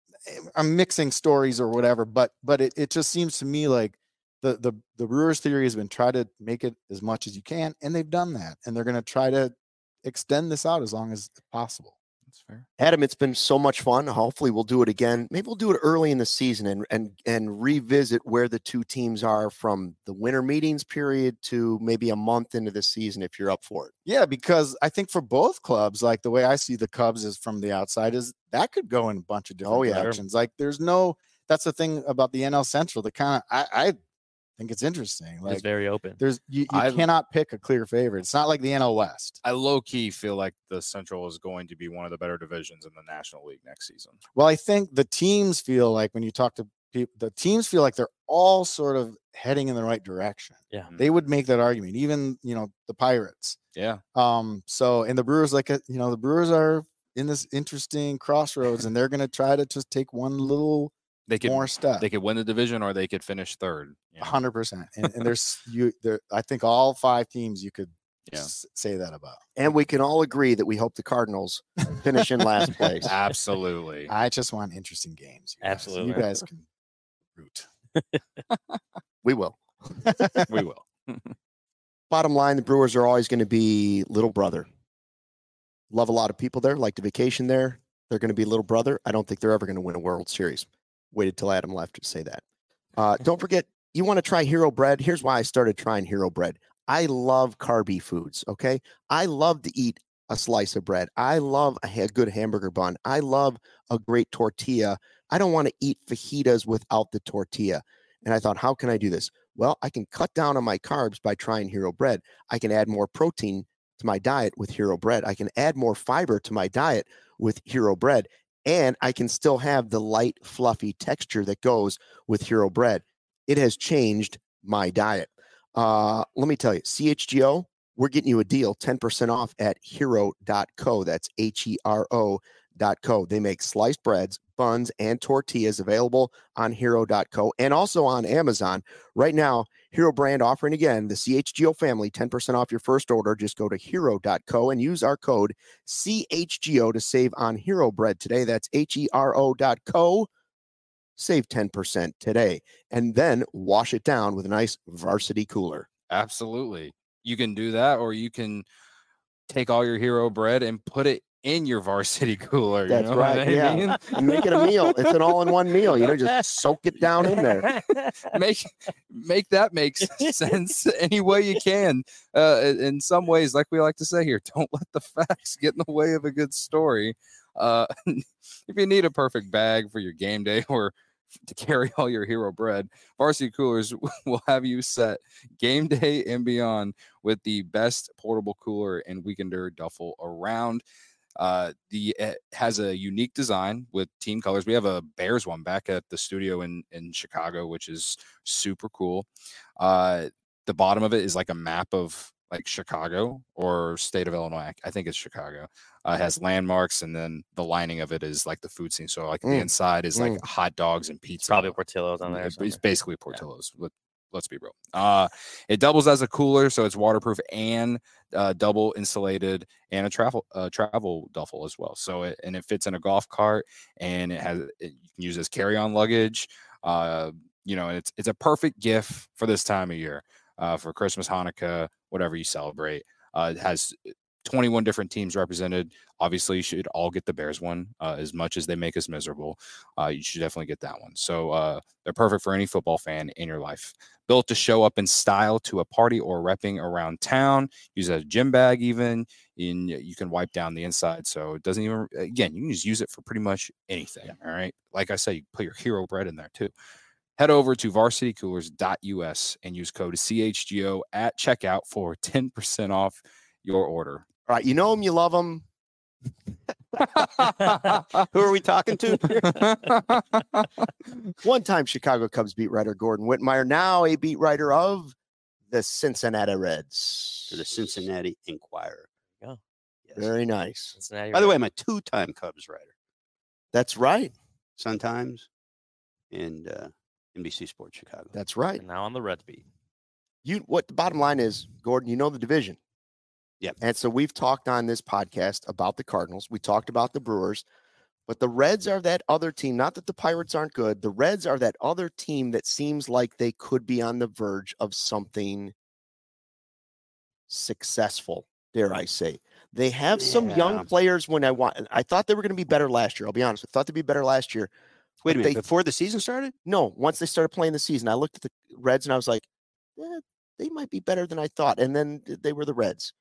I'm mixing stories or whatever, but but it, it just seems to me like the, the the Brewers theory has been try to make it as much as you can, and they've done that, and they're going to try to extend this out as long as possible. That's fair. Adam, it's been so much fun. Hopefully we'll do it again. Maybe we'll do it early in the season and and and revisit where the two teams are from the winter meetings period to maybe a month into the season if you're up for it. Yeah, because I think for both clubs, like the way I see the Cubs is from the outside is that could go in a bunch of different oh, yeah. directions. Like there's no, that's the thing about the N L Central. The kind of, I, I think it's interesting. Like it's very open. There's you, you cannot pick a clear favorite. It's not like the N L West. I low key feel like the Central is going to be one of the better divisions in the National League next season. Well, I think the teams feel like when you talk to people, the teams feel like they're all sort of heading in the right direction. Yeah, they would make that argument. Even you know the Pirates. Yeah. Um. So and the Brewers, like you know, the Brewers are in this interesting crossroads, and they're going to try to just take one little. They could more stuff. They could win the division, or they could finish third. A hundred percent. And and there's you there. I think all five teams you could yeah. s- say that about. And we can all agree that we hope the Cardinals finish in last place. Absolutely. I just want interesting games. You Absolutely. Guys. You guys can root. We will. We will. Bottom line, the Brewers are always going to be little brother. Love a lot of people there. Like to vacation there. They're going to be little brother. I don't think they're ever going to win a World Series. Waited till Adam left to say that. Uh, don't forget, you want to try Hero Bread. Here's why I started trying Hero Bread. I love carby foods, okay? I love to eat a slice of bread. I love a, a good hamburger bun. I love a great tortilla. I don't want to eat fajitas without the tortilla. And I thought, how can I do this? Well, I can cut down on my carbs by trying Hero Bread. I can add more protein to my diet with Hero Bread. I can add more fiber to my diet with Hero Bread. And I can still have the light, fluffy texture that goes with Hero Bread. It has changed my diet. Uh, let me tell you, C H G O, we're getting you a deal, ten percent off at hero dot co. That's H E R O dot co. They make sliced breads, buns, and tortillas available on hero dot co and also on Amazon. Right now, Hero Brand offering again the C H G O family ten percent off your first order. Just go to hero dot co and use our code C H G O to save on Hero Bread today. That's H E R O dot co. Save ten percent today. And then wash it down with a nice Varsity cooler. Absolutely. You can do that, or you can take all your Hero Bread and put it in your Varsity cooler. That's you know right. what I Yeah. mean? And make it a meal. It's an all-in-one meal. You know, just soak it down in there. make make that make sense any way you can. Uh, in some ways, like we like to say here, don't let the facts get in the way of a good story. Uh, if you need a perfect bag for your game day or to carry all your Hero Bread, Varsity Coolers will have you set game day and beyond with the best portable cooler and weekender duffel around. Uh, the it has a unique design with team colors. We have a Bears one back at the studio in in Chicago, which is super cool. Uh, the bottom of it is like a map of like Chicago or state of Illinois. I think it's Chicago. Uh, it has landmarks, and then the lining of it is like the food scene. So like mm. the inside is like mm. hot dogs and pizza. It's probably Portillo's on there. It's basically Portillo's. Yeah. Let's be real. Uh, it doubles as a cooler, so it's waterproof and uh, double insulated, and a travel uh, travel duffel as well. So it and it fits in a golf cart, and it has it, you can use as carry on luggage. Uh, you know, it's it's a perfect gift for this time of year, uh, for Christmas, Hanukkah, whatever you celebrate. Uh, it has twenty-one different teams represented. Obviously, you should all get the Bears one. Uh, as much as they make us miserable, uh, you should definitely get that one. So uh, they're perfect for any football fan in your life. Built to show up in style to a party or repping around town. Use a gym bag even. In, you can wipe down the inside. So it doesn't even, again, you can just use it for pretty much anything. Yeah. All right. Like I said, you put your hero bread in there too. Head over to varsity coolers dot U S and use code C H G O at checkout for ten percent off your order. All right. You know them, you love them. Who are we talking to? One time Chicago Cubs beat writer Gordon Whitmire, now a beat writer of the Cincinnati Reds. To the Cincinnati Enquirer. Yeah. Yes. Very nice. Cincinnati By the Reds. way, I'm a two-time Cubs writer. That's right. Sun Times and uh, N B C Sports Chicago. That's right. And now on the Reds beat. You what the bottom line is, Gordon, you know the division. Yep. And so we've talked on this podcast about the Cardinals. We talked about the Brewers, but the Reds are that other team. Not that the Pirates aren't good. The Reds are that other team that seems like they could be on the verge of something successful, dare I say. They have some Yeah. young players when I want. I thought they were going to be better last year. I'll be honest. I thought they'd be better last year. Wait a but minute. they- Before the season started? No, once they started playing the season, I looked at the Reds and I was like, eh, they might be better than I thought. And then they were the Reds.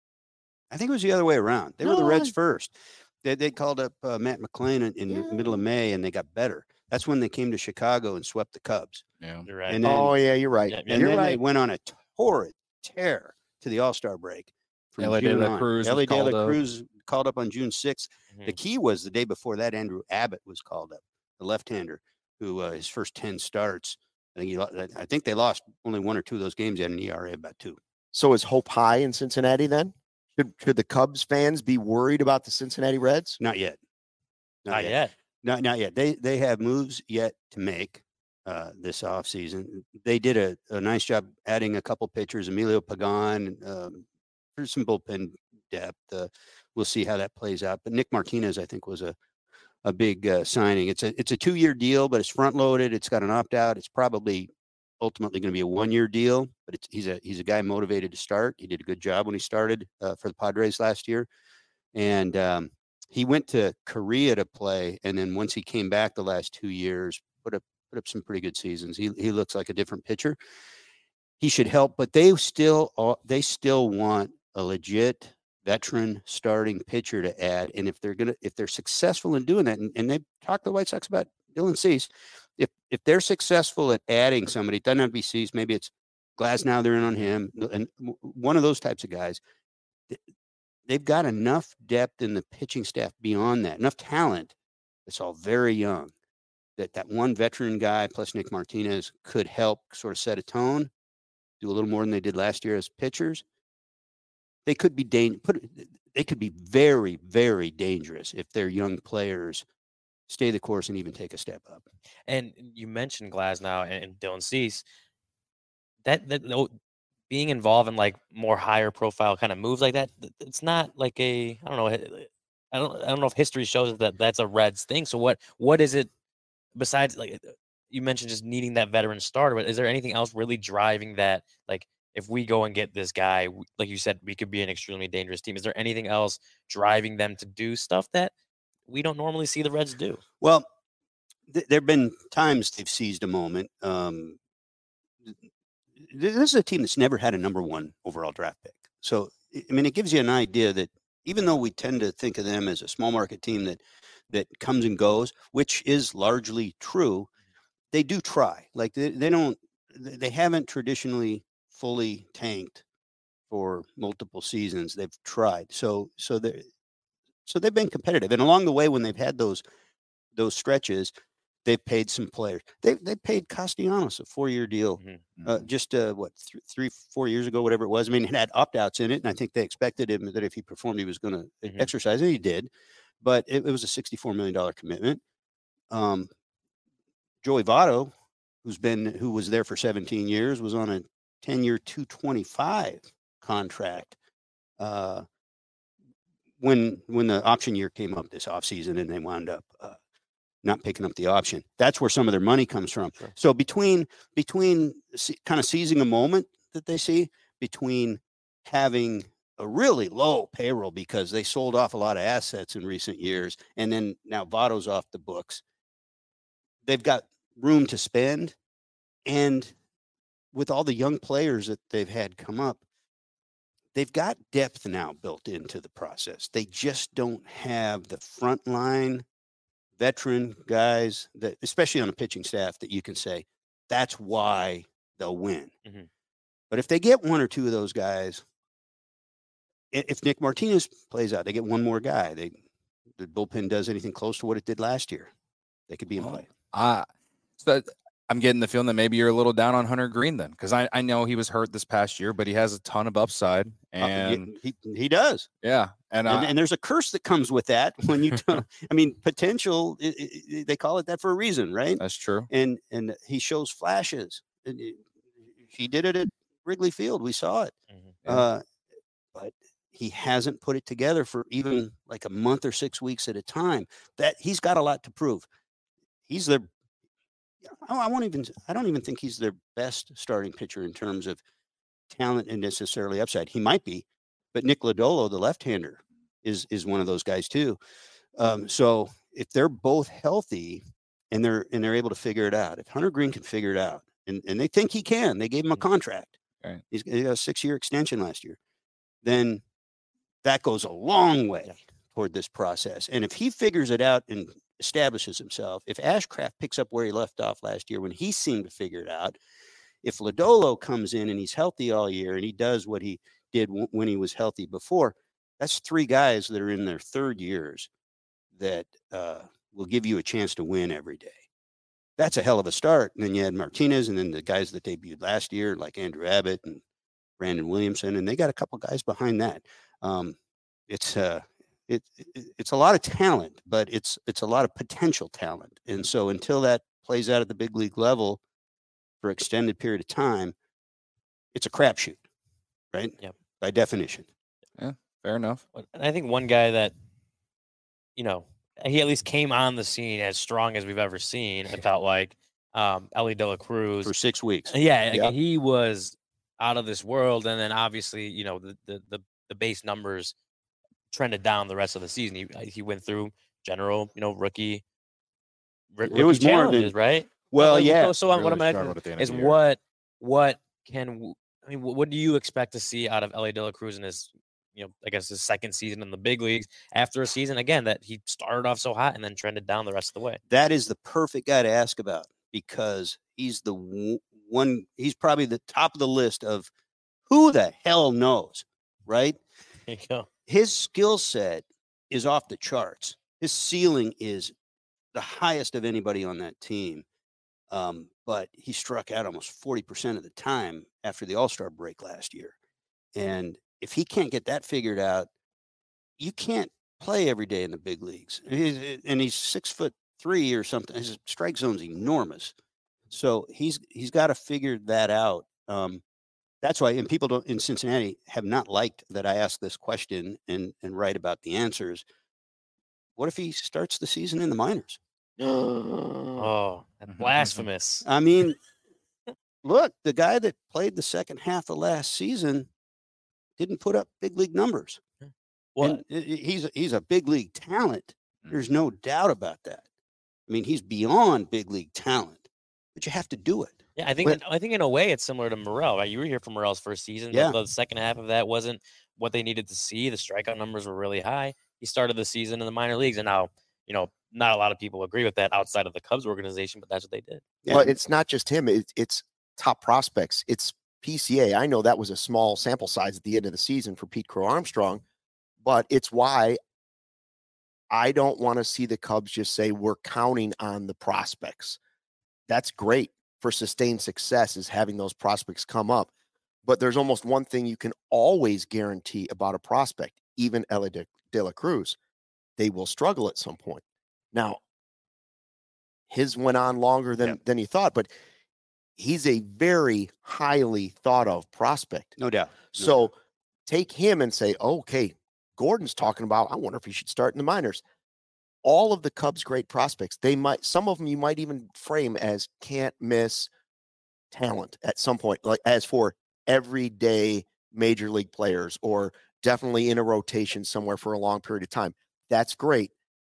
I think it was the other way around. They were the No, Reds I- first. They, they called up uh, Matt McClain in, in the middle of Yeah. May, and they got better. That's when they came to Chicago and swept the Cubs. Yeah. You're right. And then, Oh, yeah, you're right. Yeah, and You're then they right. went on a torrid tear to the All-Star break. from L A June De La on. Cruz L A was De called La up. Cruz called up on June sixth. The Mhm. key was the day before that, Andrew Abbott was called up, the left-hander, who uh, his first ten starts. I think, he, lo- I think they lost only one or two of those games. He had an E R A of about two. So is hope high in Cincinnati then? Should, should the Cubs fans be worried about the Cincinnati Reds? Not yet. Not yet. Not not yet. They they have moves yet to make uh, this offseason. They did a, a nice job adding a couple pitchers, Emilio Pagan. Um, there's some bullpen depth. Uh, we'll see how that plays out. But Nick Martinez, I think, was a a big uh, signing. It's a it's a two year deal, but it's front loaded. It's got an opt out. It's probably ultimately going to be a one year deal. But it's, he's a he's a guy motivated to start. He did a good job when he started uh, for the Padres last year, and um, he went to Korea to play, and then once he came back the last two years, put up put up some pretty good seasons. He he looks like a different pitcher. He should help, but they still uh, they still want a legit veteran starting pitcher to add. And if they're gonna if they're successful in doing that, and, and they talked to the White Sox about Dylan Cease, if if they're successful at adding somebody, it doesn't have to be Cease, maybe it's Glasnow, they're in on him, and one of those types of guys. They've got enough depth in the pitching staff beyond that, enough talent. It's all very young. That that one veteran guy plus Nick Martinez could help sort of set a tone, do a little more than they did last year as pitchers. They could be dang, put they could be very, very dangerous if their young players stay the course and even take a step up. And you mentioned Glasnow and, and Dylan Cease. That that no, being involved in like more higher profile kind of moves like that, th- it's not like a I don't know. I don't I don't know if history shows that that's a Reds thing. So what what is it besides like you mentioned just needing that veteran starter? But is there anything else really driving that? Like if we go and get this guy, w- like you said, we could be an extremely dangerous team. Is there anything else driving them to do stuff that we don't normally see the Reds do? Well, th- there have been times they've seized a moment. Um, th- this is a team that's never had a number one overall draft pick. So, I I mean, it gives you an idea that even though we tend to think of them as a small market team that that comes and goes, which is largely true, they do try. Like they, they don't, they haven't traditionally fully tanked for multiple seasons. They've tried. So, so they, so they've been competitive, and along the way, when they've had those those stretches, they've paid some players. They they paid Castellanos a four year deal, Mhm. uh, just uh, what th- three four years ago, whatever it was. I mean, it had opt outs in it, and I think they expected him that if he performed, he was going to Mhm. exercise, and he did. But it, it was a sixty four million dollar commitment. Um, Joey Votto, who's been who was there for seventeen years, was on a ten year two twenty five contract. Uh, when when the option year came up this offseason, and they wound up uh, not picking up the option. That's where some of their money comes from. Sure. So between between se- kind of seizing a moment that they see, between having a really low payroll because they sold off a lot of assets in recent years, and then now Votto's off the books, they've got room to spend. And with all the young players that they've had come up, they've got depth now built into the process. They just don't have the frontline veteran guys that, especially on a pitching staff, that you can say that's why they'll win. Mm-hmm. But if they get one or two of those guys, if Nick Martinez plays out, they get one more guy. They the bullpen does anything close to what it did last year, they could be in Well, play. Uh, so I'm getting the feeling that maybe you're a little down on Hunter Green then, because I, I know he was hurt this past year, but he has a ton of upside. And uh, he, he does. Yeah. And, and, uh, and there's a curse that comes with that when you don't, I mean, potential, it, it, they call it that for a reason, right? That's true. And, and he shows flashes. And it, he did it at Wrigley Field. We saw it. Mm-hmm. Yeah. Uh, but he hasn't put it together for even like a month or six weeks at a time. That he's got a lot to prove. He's their, I won't even, I don't even think he's their best starting pitcher in terms of talent and necessarily upside. He might be, but Nick Lodolo, the left-hander, is is one of those guys too. Um, so if they're both healthy and they're and they're able to figure it out, if Hunter Green can figure it out, and, and they think he can, they gave him a contract. Right. He's he got a six-year extension last year. Then that goes a long way toward this process. And if he figures it out and establishes himself, if Ashcraft picks up where he left off last year when he seemed to figure it out, if Lodolo comes in and he's healthy all year and he does what he did w- when he was healthy before, that's three guys that are in their third years that uh, will give you a chance to win every day. That's a hell of a start. And then you had Martinez and then the guys that debuted last year, like Andrew Abbott and Brandon Williamson, and they got a couple guys behind that. Um, it's uh, it, it it's a lot of talent, but it's it's a lot of potential talent. And so until that plays out at the big league level for extended period of time, it's a crapshoot, right? Yep. By definition. Yeah, fair enough. And I think one guy that, you know, he at least came on the scene as strong as we've ever seen. It felt like um, Ellie De La Cruz for six weeks. Yeah, Yep. he was out of this world, and then obviously, you know, the the the, the base numbers trended down the rest of the season. He he went through general, you know, rookie. r- It was rookie more than- challenges, right? Well, Like, yeah. So, so what Really I'm asking struggled at the end of is the year. what what can w- I mean? What, what do you expect to see out of Ellie De La Cruz in his, you know, I guess his second season in the big leagues after a season again that he started off so hot and then trended down the rest of the way? That is the perfect guy to ask about because he's the w- one, he's probably the top of the list of who the hell knows, right? There you go. His skill set is off the charts. His ceiling is the highest of anybody on that team. Um, but he struck out almost forty percent of the time after the All-Star break last year. And if he can't get that figured out, you can't play every day in the big leagues. He's, and he's six foot three or something. His strike zone's enormous. So he's he's got to figure that out. Um, that's why, and people don't in Cincinnati have not liked that I ask this question and and write about the answers. What if he starts the season in the minors? Oh, blasphemous! I mean, look, the guy that played the second half of last season didn't put up big league numbers. Well, And i- i- he's a- he's a big league talent. There's no doubt about that. I mean, he's beyond big league talent, but you have to do it. yeah, I think But- in, I think in a way it's similar to Morel. Right? You were here for Morel's first season. The- Yeah. The, second half of that wasn't what they needed to see. The strikeout numbers were really high. He started the season in the minor leagues, and now you know not a lot of people agree with that outside of the Cubs organization, but that's what they did. Yeah. But it's not just him. It, it's top prospects. It's P C A. I know that was a small sample size at the end of the season for Pete Crow Armstrong, but it's why I don't want to see the Cubs just say we're counting on the prospects. That's great for sustained success is having those prospects come up. But there's almost one thing you can always guarantee about a prospect, even Ellie De, De La Cruz. They will struggle at some point. Now, his went on longer than, Yeah. than he thought, but he's a very highly thought of prospect. No doubt. No So take him and say, okay, Gordon's talking about, I wonder if he should start in the minors. all of the Cubs' great prospects, they might, some of them you might even frame as can't miss talent at some point, like as for everyday major league players or definitely in a rotation somewhere for a long period of time. That's great.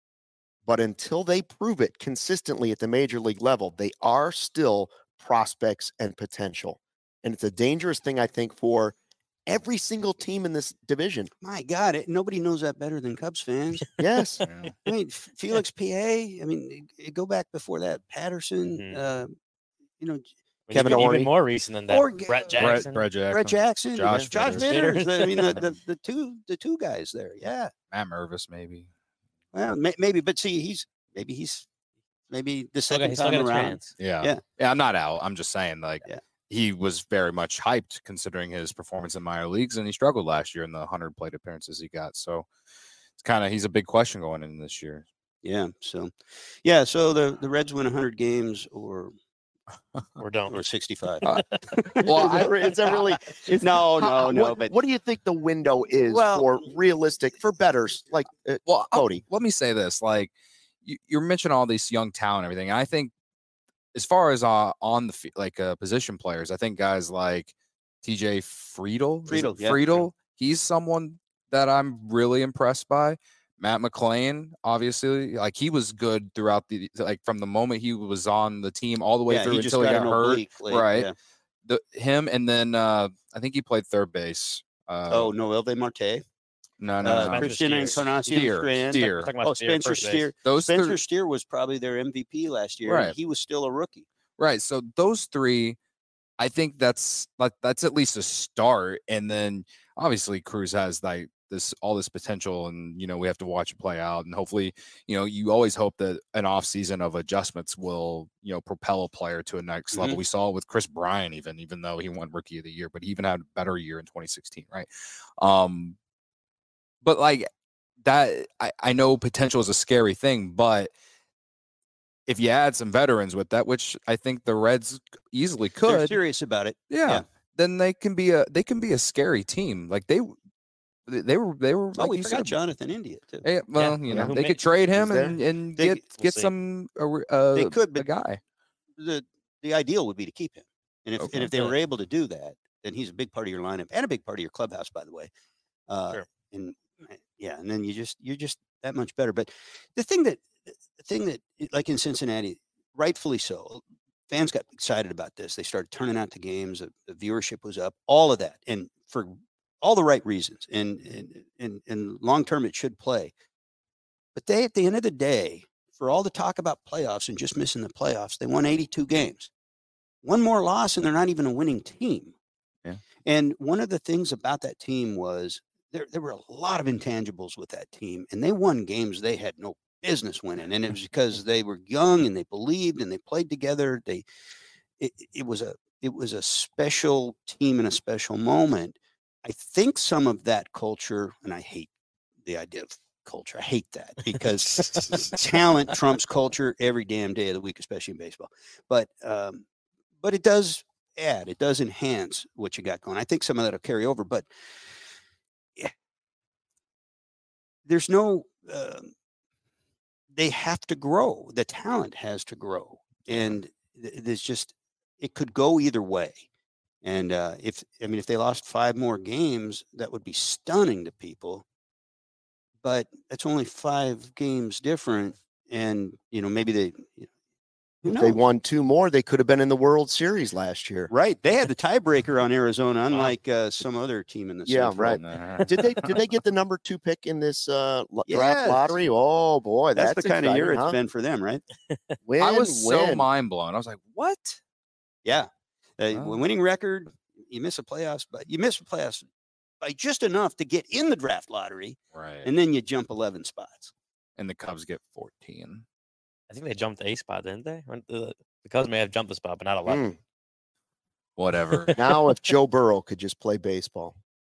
But until they prove it consistently at the major league level, they are still prospects and potential. And it's a dangerous thing, I think, for every single team in this division. My God, it, nobody knows that better than Cubs fans. Yes. Yeah. I mean, F- Felix P A. I mean, y- go back before that, Patterson. Mhm. Uh, you know, I mean, Kevin even, Ory. even more recent than that. Or G- Brett Brett- Jackson. Brett Jackson, Brett Jackson, Josh Josh Vitters. Vitters. I mean, the, the the two the two guys there. Yeah. Matt Mervis, maybe. Well, may, maybe, but see, he's maybe he's maybe the Still got, second he's still time got a around. chance. Yeah. Yeah. Yeah. I'm not out. I'm just saying, like, Yeah. he was very much hyped considering his performance in minor leagues, and he struggled last year in the one hundred plate appearances he got. So it's kind of, he's a big question going in this year. Yeah. So, yeah. So the the Reds win one hundred games or Or don't. or sixty-five. Uh, Well, I, is that really? Is, No, how- no, no, What, but- what do you think the window is Well- for realistic, for bettors like uh, Well, I'll- Cody? let me say this: like, you, you're mentioning all these young talent and everything. And I think, as far as uh, on the fi- like uh, position players, I think guys like T J Friedel, is it Friedel, yeah. Friedel, he's someone that I'm really impressed by. Matt McClain, obviously, like he was good throughout the like from the moment he was on the team all the way yeah, through he just until he got got an hurt. oblique late, right. yeah. The him and then uh, I think he played third base. Uh, Oh, Noelve Marte. no, no, Uh, no. Spencer Christian Steer. Encarnacion Steer, Strand. Steer. Talking about Oh, Steer, Spencer first base. Steer. Those Spencer three, Steer was probably their M V P last year. Right. And he was still a rookie. right. So those three, I think that's like that's at least a start. And then obviously Cruz has like this all this potential, and you know we have to watch it play out. And hopefully, you know, you always hope that an off season of adjustments will you know propel a player to a next level. Mhm. We saw it with Chris Bryant, even even though he won Rookie of the Year, but he even had a better year in twenty sixteen, right? Um, but like that, I I know potential is a scary thing, but if you add some veterans with that, which I think the Reds easily They're could, serious about it. yeah, yeah. then they can be a they can be a scary team. Like they they they were they were Oh, like we you forgot said. Jonathan India too. Yeah, well, you yeah, know, who they may- could trade him who's there? and, and They get could- we'll get see. some uh, re- uh, They could, a but guy. the the ideal would be to keep him. And if Okay. and if they Yeah. were able to do that, then he's a big part of your lineup and a big part of your clubhouse, by the way. Uh, Sure. And uh, yeah, and then you just you're just that much better. But the thing that the thing that like in Cincinnati, rightfully so, fans got excited about this. They started turning out to games. The, the viewership was up. All of that, and for all the right reasons. And and and, and long term, it should play. But they, at the end of the day, for all the talk about playoffs and just missing the playoffs, they won eighty-two games. One more loss, and they're not even a winning team. Yeah. And one of the things about that team was there, there were a lot of intangibles with that team, and they won games they had no business winning. And it was because they were young and they believed and they played together. They, it, it was a, it was a special team and a special moment. I think some of that culture, and I hate the idea of culture. I hate that because talent trumps culture every damn day of the week, especially in baseball. But um, but it does add, it does enhance what you got going. I think some of that will carry over, but yeah, there's no. Uh, they have to grow. The talent has to grow, and th- there's just it could go either way. And uh, if I mean, if they lost five more games, that would be stunning to people. But that's only five games different, and you know maybe they. You know, If they won two more, they could have been in the World Series last year. Right, they had the tiebreaker on Arizona, unlike uh, some other team in the Yeah, Central. right. Nah. Did they did they get the number two pick in this uh, lo- draft Yes. lottery? Oh boy, That's, that's, the kind of year exciting, it's huh? been for them, right? Win, I was so win. mind blown. I was like, what? Yeah, uh, Wow. winning record. You miss a playoffs, but you miss the playoffs by just enough to get in the draft lottery, Right. and then you jump eleven spots. And the Cubs get fourteen. I think they jumped a spot, didn't they? Or The, the Cubs may have jumped a spot, but not eleven. Mm. Whatever. Now, if Joe Burrow could just play baseball.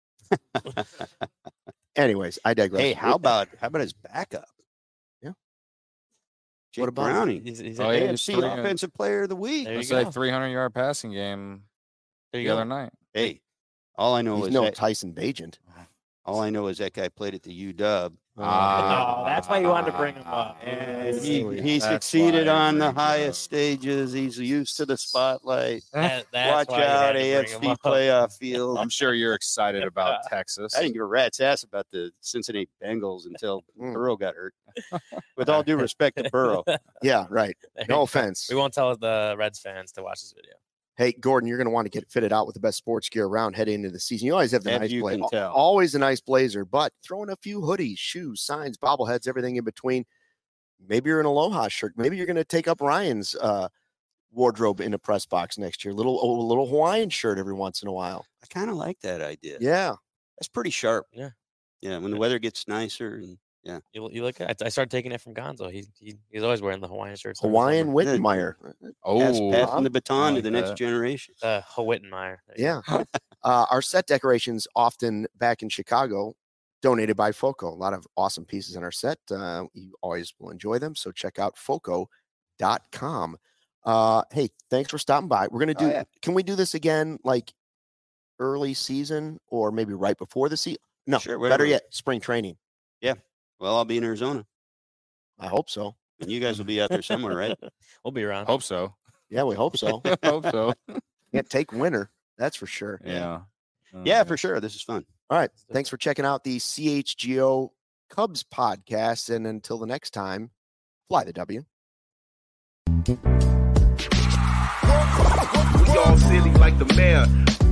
Anyways, I digress. Hey, how about how about his backup? Yeah. Jake What about him? Browning, He's, he's Oh, a- yeah, A F he's C pretty good. Offensive Player of the Week. There you It's like go. three hundred yard passing game There the you other go. night. Hey, all I know He's is no that Tyson Bagent. All I know is that guy played at the U W. Oh, that's why you wanted to bring him up. And Yes. he, he That's succeeded why I on the bring him highest up. stages. He's used to the spotlight. That- that's Watch why you out, had to bring A F him C up. playoff field. Um, I'm sure you're excited about Texas. I didn't give a rat's ass about the Cincinnati Bengals until Mm. Burrow got hurt. With all due respect to Burrow. Yeah, right. There No you go. offense. We won't tell the Reds fans to watch this video. Hey, Gordon, you're going to want to get fitted out with the best sports gear around heading into the season. You always have the As nice you blazer, can tell. always a nice blazer, but throw in a few hoodies, shoes, signs, bobbleheads, everything in between. Maybe you're an Aloha shirt. Maybe you're going to take up Ryan's uh, wardrobe in a press box next year. Little a little Hawaiian shirt every once in a while. I kind of like that idea. Yeah. That's pretty sharp. Yeah. Yeah. When the weather gets nicer and yeah. You, you look at I started taking it from Gonzo. He, he he's always wearing the Hawaiian shirts. in the Hawaiian summer. Whittenmeyer. Pass, Oh, passing the baton I to the like next that. generation. Uh, Hawittenmeyer. There you go. Yeah. uh, our set decorations often back in Chicago, donated by FOCO. A lot of awesome pieces in our set. Uh, you always will enjoy them. So check out foco dot com. Uh, hey, thanks for stopping by. We're going to Oh, do, yeah. can we do this again like early season or maybe right before the season? No, Sure, better whatever. yet, spring training. Well, I'll be in Arizona. I hope so. And you guys will be out there somewhere, right? We'll be around. Hope so. Yeah, we hope so. Hope so. Can't take winter. That's for sure. Yeah. Yeah, Uh, for sure. This is fun. All right. Thanks for checking out the C H G O Cubs podcast. And until the next time, fly the W. We all silly like the mayor.